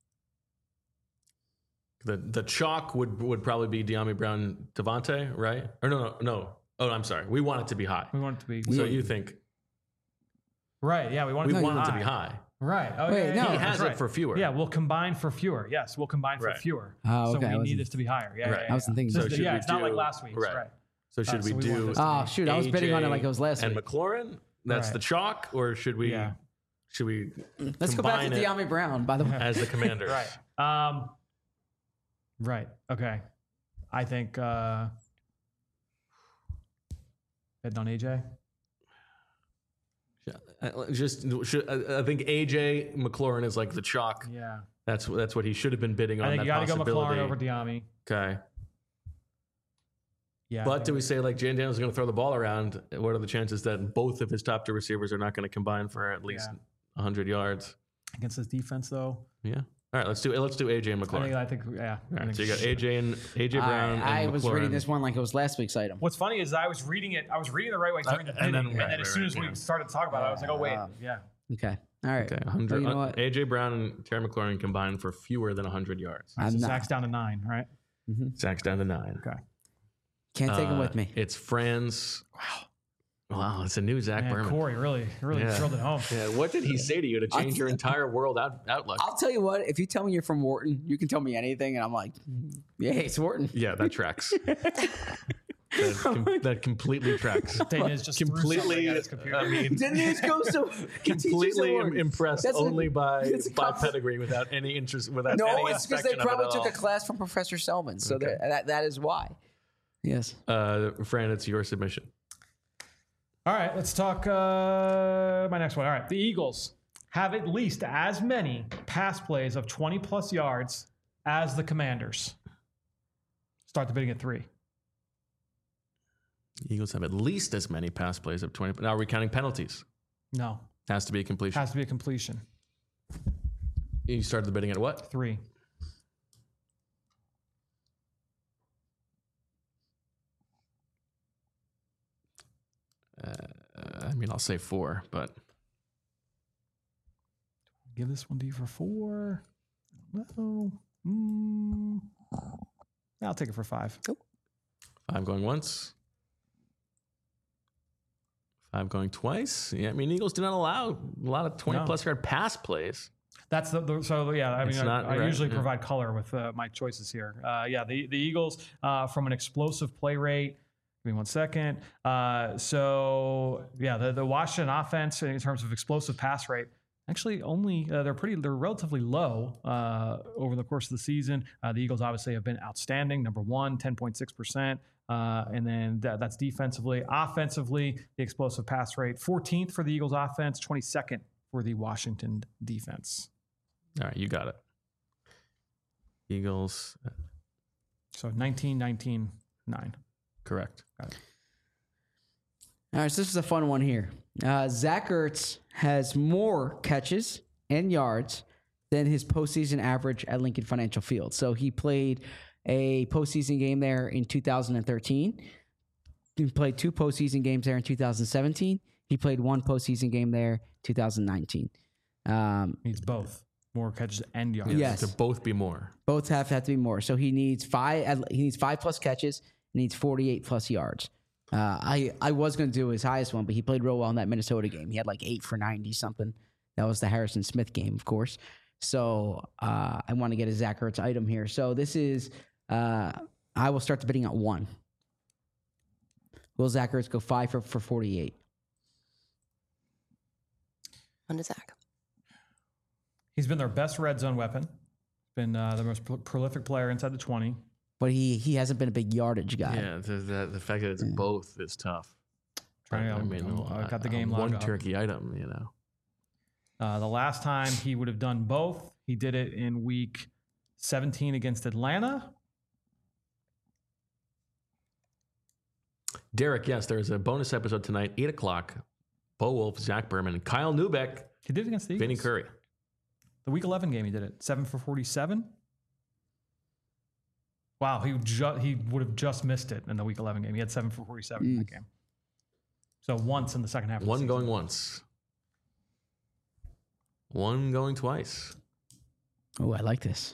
The the chalk would would probably be De'Ami Brown, Devontae, right? Or no, no, no. Oh, I'm sorry. We want it to be high. We want it to be So you think right? Yeah, we want we it to be want it high. to be high? Right. Oh, Wait, yeah, no. yeah, He that's has it right. for fewer. Yeah, we'll combine for fewer. Yes, we'll combine for Right. fewer. Oh, So okay. I we wasn't- need this to be higher. Yeah, Right. yeah, yeah. I wasn't thinking So So it's- should yeah, we it's not like do- last week's. right. Right. So should Uh, we so we want do this to Oh, shoot. I was betting on it A J like it was last and week. McLaurin? That's Right. the chalk, or should we? Yeah. Should we Let's go back to combine it De'Ami Brown, by the way. as the commander? Right. Um, right. Okay. I think uh, betting on A J. Uh, Just, should, I I think A J McLaurin is like the chalk. Yeah. That's that's what he should have been bidding on. I think that you got to go possibility. McLaurin over De'Ami. Okay. Yeah. I But think- do we say like Jalen Daniels is going to throw the ball around? What are the chances that both of his top two receivers are not going to combine for at least Yeah. one hundred yards? against this defense, though, Yeah. All right, let's do let's do A J and I McLaurin. think, I think yeah. All I right, think so you got A J and A J Brown. and I, I was reading McLaurin. this one like it was last week's item. What's funny is I was reading it. I was reading the right way during the and bidding, then- and then, right, as right, soon right, as we yeah. started to talk about it, I was like, oh wait, yeah. Okay. All right. Okay, Oh, one hundred. you know uh, what? A J Brown and Terry McLaurin combined for fewer than one hundred yards. All right, I'm so not- Zach's down to nine, right? Zach's down to nine. Okay. Can't take him Uh, with me. It's Franz. Wow. Wow, it's a new Zach Man, Berman. Corey really, really Yeah. drilled it home. Yeah, what did he say to you to change your entire world out, outlook? I'll tell you what, if you tell me you're from Wharton, you can tell me anything, and I'm like, yeah, it's Wharton. Yeah, that tracks. that, com- that completely tracks. Dana is just threw something completely. at his computer. I mean, Didn't he just go so completely im- impressed That's a- only by it's a by comp- pedigree without any interest without No, any it's because they inspection of it probably at took all. a class from Professor Selman, so Okay. that, that that is why. Yes. Uh, Fran, it's your submission. All right, let's talk uh, my next one. All right, the Eagles have at least as many pass plays of twenty plus yards as the Commanders. Start the bidding at three. Eagles have at least as many pass plays of twenty. Now, are we counting penalties? No, Has to be a completion. has to be a completion. You started the bidding at what? Three. mean, I'll say four, but give this one to you for four. No. Mm. I'll take it for five. five going once. Five going twice. Yeah, I mean, Eagles do not allow a lot of twenty-plus No. yard pass plays. That's the, the so yeah. I mean, It's I, not I right, usually yeah. provide color with uh, my choices here. Uh, yeah, the the Eagles uh, from an explosive play rate. Give me one second. Uh, so yeah, the the Washington offense in terms of explosive pass rate. Actually, only uh, they're pretty. They're relatively low uh, over the course of the season. Uh, the Eagles obviously have been outstanding. Number one, ten point six percent, uh, and then that, that's defensively. Offensively, the explosive pass rate, fourteenth for the Eagles offense, twenty-second for the Washington defense. All right, you got it. Eagles, So nineteen, nineteen, nine. correct. All right, so this is a fun one here. Uh, Zach Ertz has more catches and yards than his postseason average at Lincoln Financial Field. So he played a postseason game there in two thousand thirteen. He played two postseason games there in two thousand seventeen. He played one postseason game there two thousand nineteen. Um, Needs both. More catches and yards. Yes. To both be more. both have have to be more. So he needs five. He needs five plus catches. He needs forty-eight plus yards. Uh, I I was going to do his highest one, but he played real well in that Minnesota game. He had like eight for ninety something. That was the Harrison Smith game, of course. So uh, I want to get a Zach Ertz item here. So this is. Uh, I will start the bidding at one. Will Zach Ertz go five for for forty-eight? On to Zach. He's been their best red zone weapon. Been uh, the most pro- prolific player inside the twenty. But he he hasn't been a big yardage guy. Yeah, the, the, the fact that it's both is tough. Trying to- I mean, I'm- I uh, got the game uh, logged one up. turkey item, you know. Uh, the last time he would have done both, he did it in week seventeen against Atlanta. Derek, yes, there's a bonus episode tonight, eight o'clock. Bo Wolf, Zach Berman, Kyle Newbeck, He did it against the Eagles. Vinny Curry. The week eleven game, he did it. seven for forty-seven. Wow, he ju- he would have just missed it in the week eleven game. He had seven for forty-seven in that game. So once in the second half. Of the One season. going once. One going twice. Oh, I like this.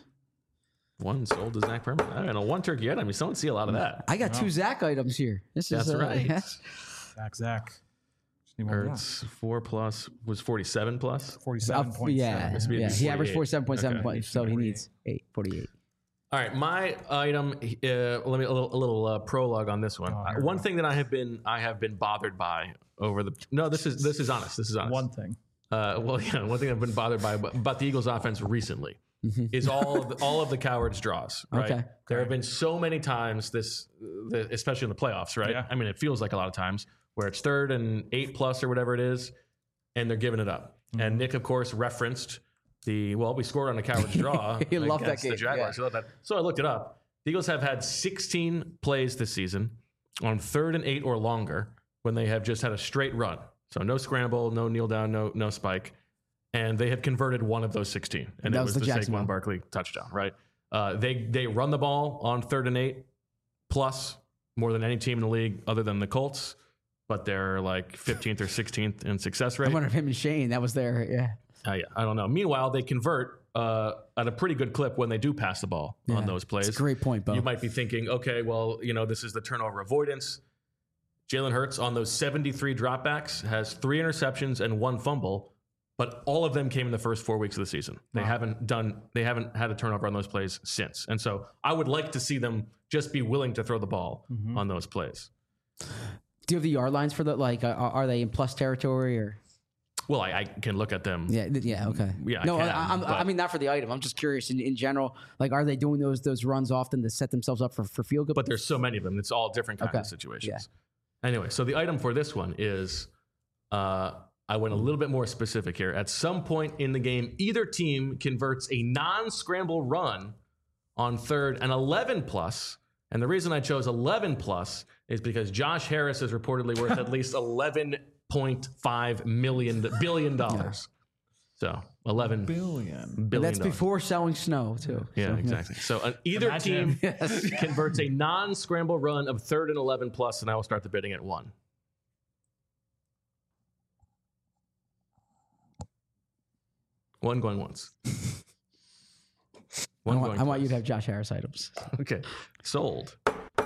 One sold to Zach Berman. I don't know, one turkey item. You don't see a lot of that. I got two Zach items here. This That's is uh, right. Zach, Zach. Just need one more. Ertz, four plus, was forty-seven plus. forty-seven point seven. yeah, Must be yeah. He averaged forty-eight. forty-seven point seven Okay. points, so he needs eight, forty-eight. All right, my item. Uh, let me a little, a little uh, prologue on this one. Oh, Uh, here we one go. thing that I have been I have been bothered by over the no, this is this is honest. This is honest. One thing. Uh, well, yeah, one thing I've been bothered by about the Eagles' offense recently is all of the, all of the cowards draws. Right, Okay. there have been so many times this, the, especially in the playoffs. Right, Yeah. I mean, it feels like a lot of times where it's third and eight plus or whatever it is, and they're giving it up. And Nick, of course, referenced the well, we scored on a coward's draw. He loved that against the game, Jaguars. yeah. He loved that. So I looked it up. The Eagles have had sixteen plays this season on third and eight or longer when they have just had a straight run. So no scramble, no kneel down, no no spike, and they have converted one of those sixteen, and That it was was the the Jacksonville. Saquon Barkley touchdown. Right? Uh, they they run the ball on third and eight plus more than any team in the league other than the Colts, but they're like fifteenth or sixteenth in success I rate. wonder if him and Shane, that was their, yeah. Uh, yeah, I don't know. Meanwhile, they convert uh, at a pretty good clip when they do pass the ball Yeah. on those plays. It's a great point, Bo. You might be thinking, okay, well, you know, this is the turnover avoidance. Jalen Hurts on those seventy-three dropbacks has three interceptions and one fumble, but all of them came in the first four weeks of the season. They haven't done, they haven't had a turnover on those plays since. And so I would like to see them just be willing to throw the ball on those plays. Do you have the yard lines for the, like, uh, are they in plus territory or? Well, I, I can look at them. Yeah, th- yeah, okay. Yeah, I no, can, I, I'm, I but- mean, not for the item. I'm just curious in, in general. Like, are they doing those those runs often to set themselves up for, for field goal? But there's so many of them. It's all different kinds Okay. of situations. Anyway, so the item for this one is uh, I went a little bit more specific here. At some point in the game, either team converts a non-scramble run on third and eleven plus. And the reason I chose eleven plus is because Josh Harris is reportedly worth at least eleven point five million billion dollars. So eleven Billion. billion. That's dollars. before selling snow, too. Yeah, So, exactly. So uh, either Imagine. team converts a non-scramble run of third and eleven plus, and I will start the bidding at one. One going once. I One want, going I want you to twice. have Josh Harris items. Okay. Sold. I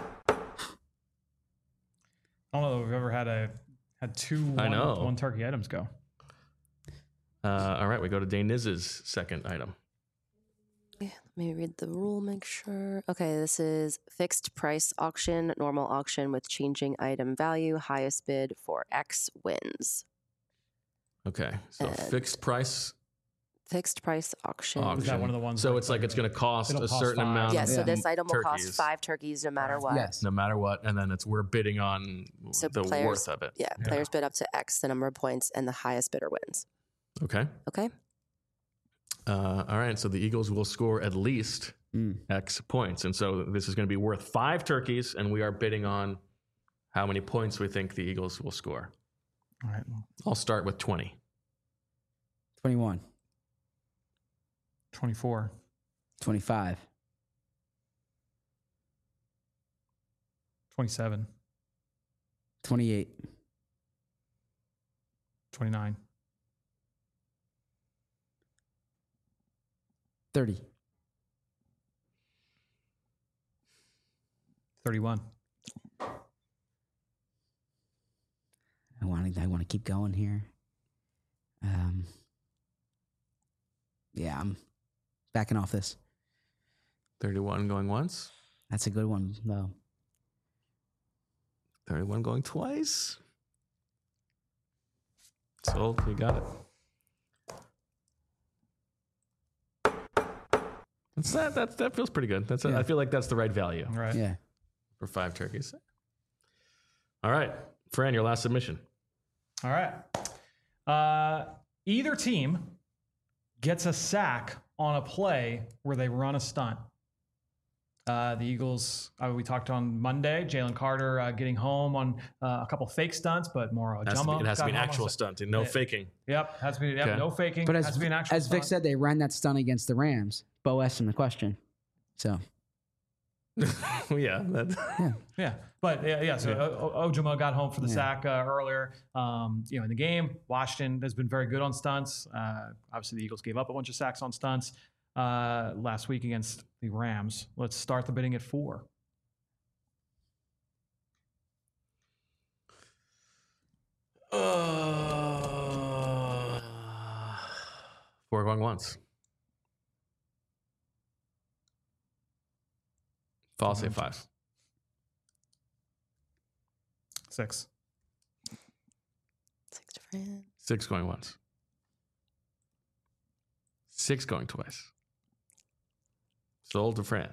don't know if we've ever had a had two I one, know. one turkey items go. Uh, all right, we go to Dane Niz's second item. Let me read the rule, make sure. Okay, this is fixed price auction, normal auction with changing item value, highest bid for X wins. Okay, so And- fixed price Fixed price auction. auction. Is that one of the ones So like- it's like it's going to cost It'll a cost certain five. amount. Yes, of so this item will turkeys, cost five turkeys no matter what. Yes. no matter what, and then it's we're bidding on So the players- worth of it. Yeah, players bid up to X, the number of points, and the highest bidder wins. Okay. Okay? Uh, all right. So the Eagles will score at least Mm. X points, and so this is going to be worth five turkeys, and we are bidding on how many points we think the Eagles will score. All right. I'll start with twenty. twenty-one, twenty-four. twenty-five, twenty-seven. twenty-eight, twenty-nine. thirty, thirty-one. I want to. I want to keep going here. Um. Yeah, I'm backing off this. thirty-one going once. That's a good one, though. thirty-one going twice. Sold. You got it. That's that. That that feels pretty good. That's. Yeah. I feel like that's the right value All right. Yeah. for five turkeys. All right, Fran, your last submission. All right. Uh, either team gets a sack on a play where they run a stunt. Uh, the Eagles, uh, we talked on Monday, Jalen Carter uh, getting home on uh, a couple fake stunts, but more It has to be, Ojama it has to be an got home on actual a- stunt and no Yeah. faking. Yep, has to be yep, Okay. no faking. But has as to be an actual as Vic stunt. said, they ran that stunt against the Rams. Bo asked him the question, so yeah. That, Yeah, but yeah, yeah. So Yeah. O- O- Ojama got home for the Yeah. sack uh, earlier. Um, you know, in the game, Washington has been very good on stunts. Uh, obviously, the Eagles gave up a bunch of sacks on stunts uh, last week against the Rams. Let's start the bidding at four. Uh, four going once. I'll say five. Six. Six different. Six going once. Six going twice. Sold to Fran.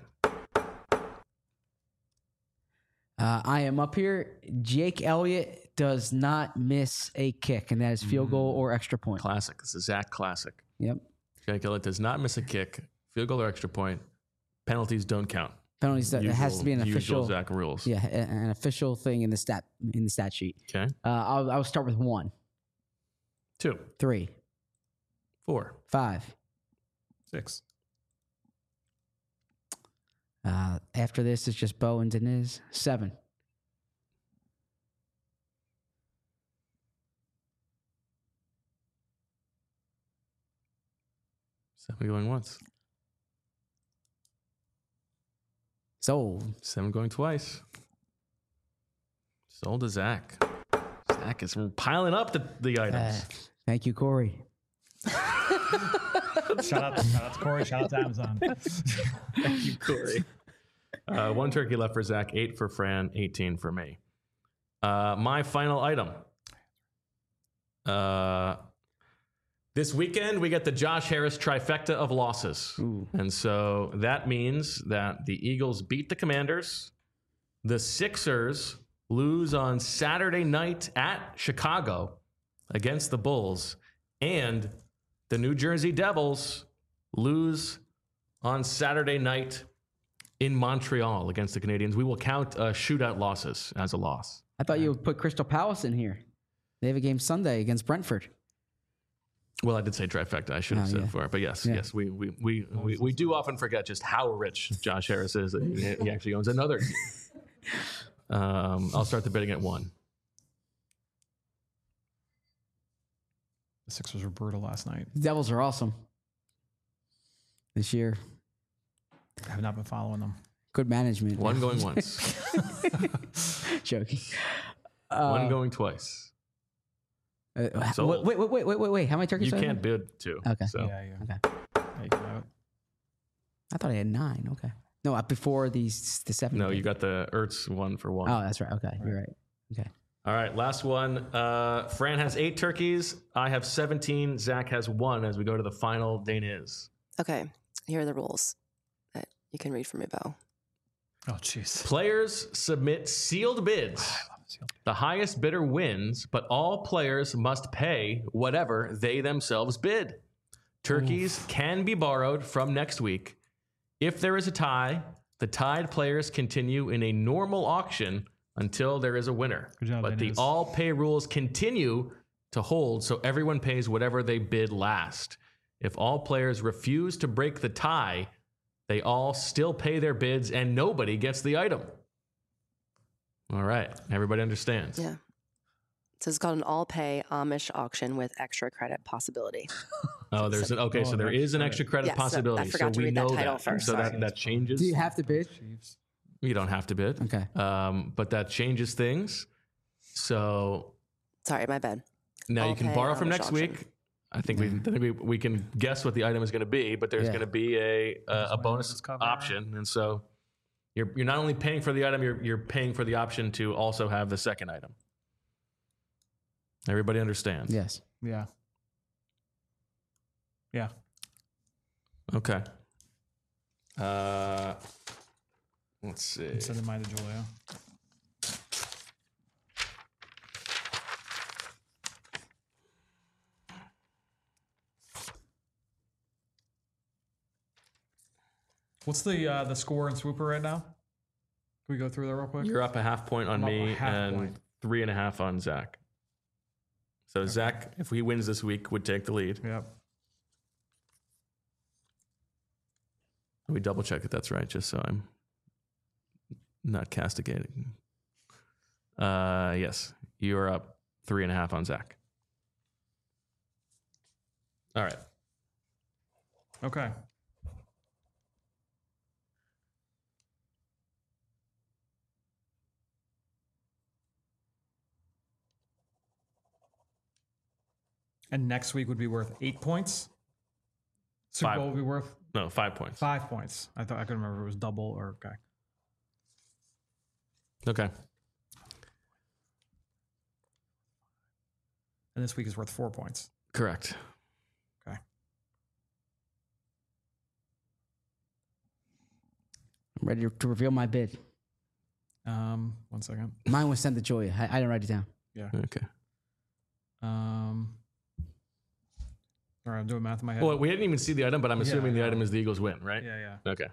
uh, I am up here. Jake Elliott does not miss a kick, and that is field goal or extra point. Classic. This is Zach classic. Yep. Jake Elliott does not miss a kick, field goal or extra point. Penalties don't count. Penalties. That it has to be an Usual official. Zach rules. Yeah, a- an official thing in the stat in the stat sheet. Okay. Uh, I'll, I'll start with one, Two. three, Four. five. Six. Uh, after this, it's just Bo and Deniz. Seven. Seven going once. Sold. Seven going twice. Sold to Zach. Zach is piling up the, the Uh, items. thank you, Corey. Shout out, shout out to Corey. Shout out to Amazon. Thank you, Corey. Uh, one turkey left for Zach, eight for Fran, eighteen for me. Uh, my final item. Uh, this weekend, we get the Josh Harris trifecta of losses. Ooh. And so that means that the Eagles beat the Commanders. The Sixers lose on Saturday night at Chicago against the Bulls. And the New Jersey Devils lose on Saturday night in Montreal against the Canadiens. We will count uh, shootout losses as a loss. I thought you would put Crystal Palace in here. They have a game Sunday against Brentford. Well, I did say trifecta. I should have Oh, said yeah. for it, but yes, Yeah. yes, we we, we we we do often forget just how rich Josh Harris is. That he, he actually owns another team. Um, I'll start the bidding at one. The Sixers were brutal last night. The Devils are awesome. this year. I have not been following them. Good management. One going once. Joking. One Uh, going twice. uh, Sold. wait, wait, wait, wait, wait, wait. How many turkeys? You do I have? can't bid two. Okay. So. Yeah, yeah. Okay. Yeah, you can have it. I thought I had nine. Okay. No, uh, before these the seven. No, you got the Ertz one for one. Oh, that's right. Okay, you're right. Okay. All right, last one. Uh, Fran has eight turkeys. I have seventeen. Zach has one as we go to the final Dane is. Okay, here are the rules that you can read from your bow. Oh, jeez. Players submit sealed bids. The highest bidder wins, but all players must pay whatever they themselves bid. Turkeys can be borrowed from next week. If there is a tie, the tied players continue in a normal auction until there is a winner. Good job, but the Dennis. all pay rules continue to hold, so everyone pays whatever they bid last. If all players refuse to break the tie, they all still pay their bids and nobody gets the item. All right. Everybody understands. Yeah. So it's called an all-pay Amish auction with extra credit possibility. Oh, there's an okay. Oh, So there an is an extra extra credit Yes, that- I possibility. forgot so to we read that know title that. first. So Sorry. that, that changes. Do you have to bid? Chiefs. You don't have to bid. Okay. Um, but that changes things. So Sorry, my bad. now you All can pay borrow from Amish next auction. week. I think we, I think we we can guess what the item is going to be, but there's Yeah. going to be a a, a bonus this cover. option, and so you're you're not only paying for the item, you're you're paying for the option to also have the second item. Everybody understands? Yes. Yeah. Yeah. Okay. Uh, let's see. I'm sending mine to Julia. What's the uh, the score in Swooper right now? Can we go through that real quick? You're up a half point on I'm up a me half and point. three and a half on Zach. So Zach, if he wins this week, would take the lead. Yep. We double check that that's right, just so I'm not castigating. Uh, yes, you are up three and a half on Zach. All right. Okay. And next week would be worth eight points. Super Five. Bowl would be worth No, five points. five points. I thought I couldn't remember if it was double or okay. Okay. And this week is worth four points. Correct. Okay. I'm ready to reveal my bid. Um, one second. Mine was sent to Julia. I, I didn't write it down. Yeah. Okay. Um. All right, I'm doing math in my head. Well, we didn't even see the item, but I'm Yeah, assuming the I know. item is the Eagles win, right? yeah, yeah. Okay.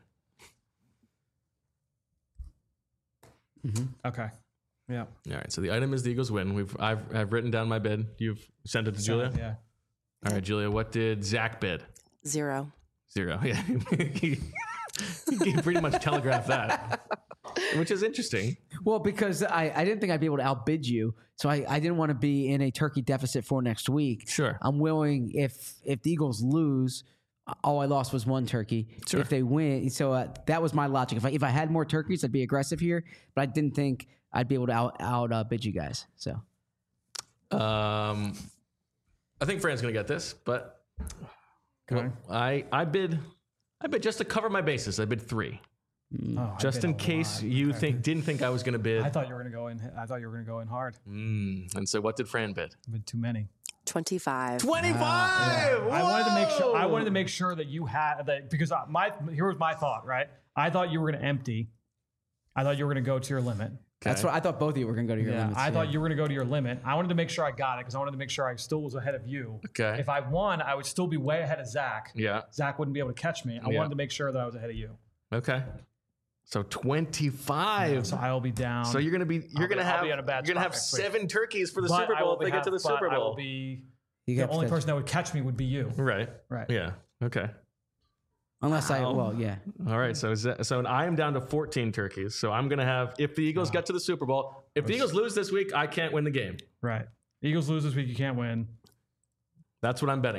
Okay. Yeah. All right. So the item is the Eagles win. We've I've I've written down my bid. You've sent it to Julia. Yeah. All right, Julia. What did Zach bid? Zero. Zero. Yeah. he, he pretty much telegraphed that, which is interesting. Well, because I, I didn't think I'd be able to outbid you, so I, I didn't want to be in a turkey deficit for next week. Sure. I'm willing if if the Eagles lose, all I lost was one turkey. Sure. If they win, so uh, that was my logic. If I if I had more turkeys, I'd be aggressive here, but I didn't think I'd be able to out out uh, bid you guys. So Um, I think Fran's gonna get this, but Okay. I I bid I bid just to cover my bases. I bid three, Oh, I just bid in a case lot. you Okay. think didn't think I was gonna bid. I thought you were gonna go in. I thought you were gonna go in hard. Mm, and so, what did Fran bid? I bid too many. twenty-five. Twenty-five. I wanted to make sure. I wanted to make sure that you had that because I- my here was my thought. Right. I thought you were gonna empty. I thought you were gonna go to your limit. that's what I thought. Both of you were going to go to your Yeah, limits. I thought you were going to go to your limit. I wanted to make sure I got it because I wanted to make sure I still was ahead of you. Okay. If I won, I would still be way ahead of Zach. Yeah. Zach wouldn't be able to catch me. I Yeah. wanted to make sure that I was ahead of you. Okay. So twenty-five. So I'll be down. So you're gonna be you're I'll be- gonna I'll have be in a bad you're gonna spot have next week. seven turkeys for the But Super I Bowl will if they be get to the have- but Super I will Bowl. be You the have to only catch- person that would catch me would be you. Right. Right. Yeah. Okay. unless I well yeah. All right. So is that, so I am down to fourteen turkeys. So I'm gonna have if the Eagles get to the Super Bowl. If the Eagles lose this week, I can't win the game. Right. Eagles lose this week. You can't win. That's what I'm betting on.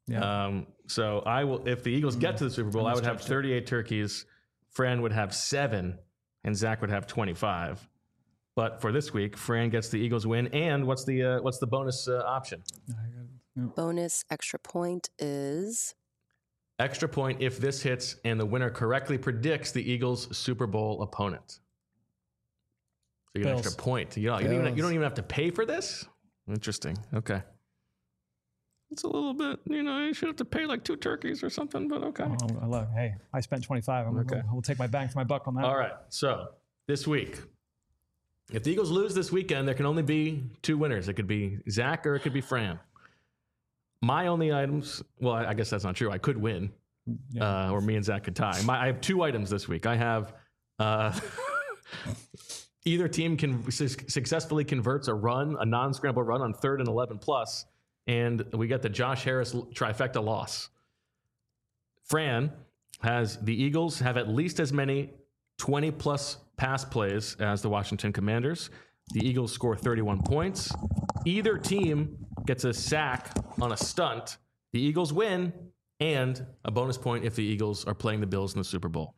Yeah. Um, so I will, if the Eagles get to the Super Bowl, I would have thirty-eight turkeys. Fran would have seven, and Zach would have twenty-five. But for this week, Fran gets the Eagles win. And what's the uh, what's the bonus uh, option? Bonus extra point is Extra point if this hits and the winner correctly predicts the Eagles' Super Bowl opponent. So you get an Bills. extra point. You don't, you, don't even, you don't even have to pay for this? Interesting. Okay. It's a little bit, you know, you should have to pay like two turkeys or something, but okay. Oh, I love, hey, I spent twenty-five. I'm Okay. okay. We'll take my bang for my buck on that. All right. So this week, if the Eagles lose this weekend, there can only be two winners. It could be Zach or it could be Fran. My only items, well, I I guess that's not true. I could win, Yeah. uh, or me and Zach could tie. My, I have two items this week. I have uh, either team can su- successfully converts a run, a non-scramble run on third and eleven plus, and we get the Josh Harris trifecta loss. Fran has the Eagles have at least as many twenty plus pass plays as the Washington Commanders. The Eagles score thirty-one points. Either team gets a sack on a stunt. The Eagles win, and a bonus point if the Eagles are playing the Bills in the Super Bowl.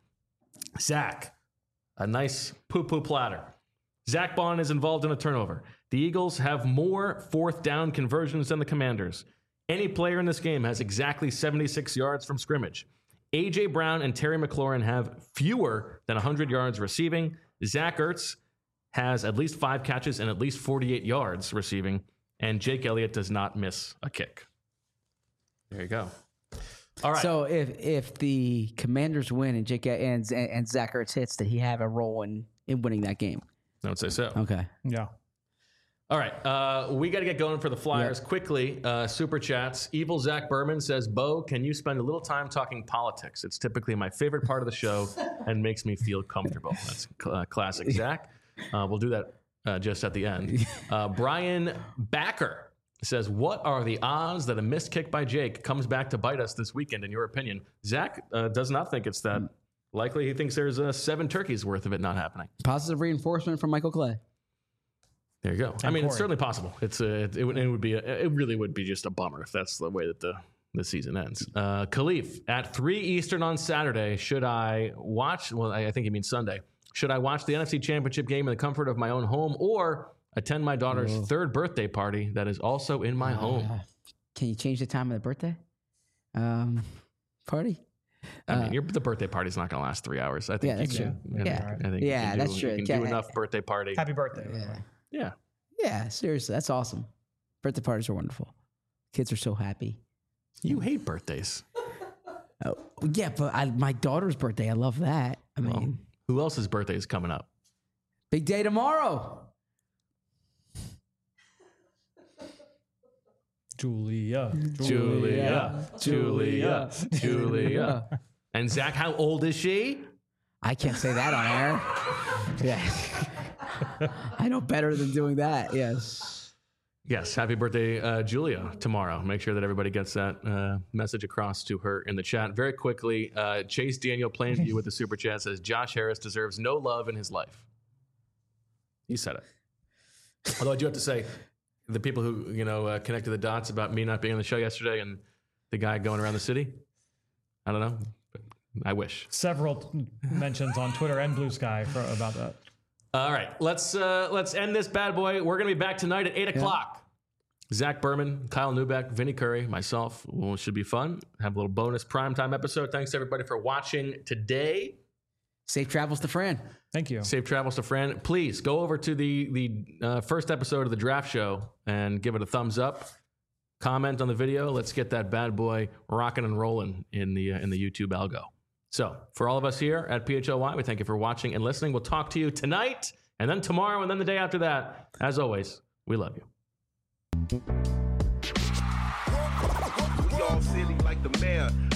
Zach, a nice poo-poo platter. Zach Bond is involved in a turnover. The Eagles have more fourth down conversions than the Commanders. Any player in this game has exactly seventy-six yards from scrimmage. A J. Brown and Terry McLaurin have fewer than one hundred yards receiving. Zach Ertz has at least five catches and at least forty-eight yards receiving. And Jake Elliott does not miss a kick. There you go. All right. So if if the Commanders win and Jake and and Zach Ertz hits, did he have a role in, in winning that game? I would say so. Okay. Yeah. All right. Uh, we got to get going for the Flyers quickly. Uh, super chats. Evil Zach Berman says, Bo, can you spend a little time talking politics? It's typically my favorite part of the show and makes me feel comfortable. That's cl- uh, classic Zach. Uh, we'll do that uh, just at the end. Uh, Brian Backer says, what are the odds that a missed kick by Jake comes back to bite us this weekend, in your opinion? Zach uh, does not think it's that likely. He thinks there's uh, seven turkeys worth of it not happening. Positive reinforcement from Michael Clay. There you go. And I mean, Corey. it's certainly possible. It's a, it, it, would, it would be a, it really would be just a bummer if that's the way that the, the season ends. Uh, Khalif, at three Eastern on Saturday, should I watch, well, I, I think he means Sunday, should I watch the N F C Championship game in the comfort of my own home or attend my daughter's Whoa. third birthday party that is also in my home? Uh, can you change the time of the birthday um, party? I mean, uh, your, the birthday party's not going to last three hours. I think Yeah, that's you can, true. I think- Yeah. I think you Yeah, can that's do, true. You can Yeah. do enough birthday party. Happy birthday. Yeah. Yeah. Yeah, seriously, that's awesome. Birthday parties are wonderful. Kids are so happy. You hate birthdays. Oh, yeah, but I, my daughter's birthday, I love that. I mean, Well, who else's birthday is coming up? big day tomorrow. Julia. Julia, Julia, Julia. And Zach, how old is she? I can't say that on air. Yeah. I know better than doing that. Yes. Yes, happy birthday, uh, Julia, tomorrow. Make sure that everybody gets that uh, message across to her in the chat. Very quickly, uh, Chase Daniel Plainview with the super chat says, Josh Harris deserves no love in his life. You said it. Although I do have to say, the people who, you know, uh, connected the dots about me not being on the show yesterday and the guy going around the city, I don't know. I wish. Several mentions on Twitter and Blue Sky for, about that. All right, let's uh, let's end this bad boy. We're gonna be back tonight at eight o'clock. Zach Berman, Kyle Newbeck, Vinny Curry, myself. Well, it should be fun. Have a little bonus primetime episode. Thanks everybody for watching today. Safe travels to Fran. Thank you. Safe travels to Fran. Please go over to the the uh, first episode of the draft show and give it a thumbs up. Comment on the video. Let's get that bad boy rocking and rolling in the uh, in the YouTube algo. So, for all of us here at P H L Y, we thank you for watching and listening. We'll talk to you tonight, and then tomorrow, and then the day after that. As always, we love you. We all silly like the mayor.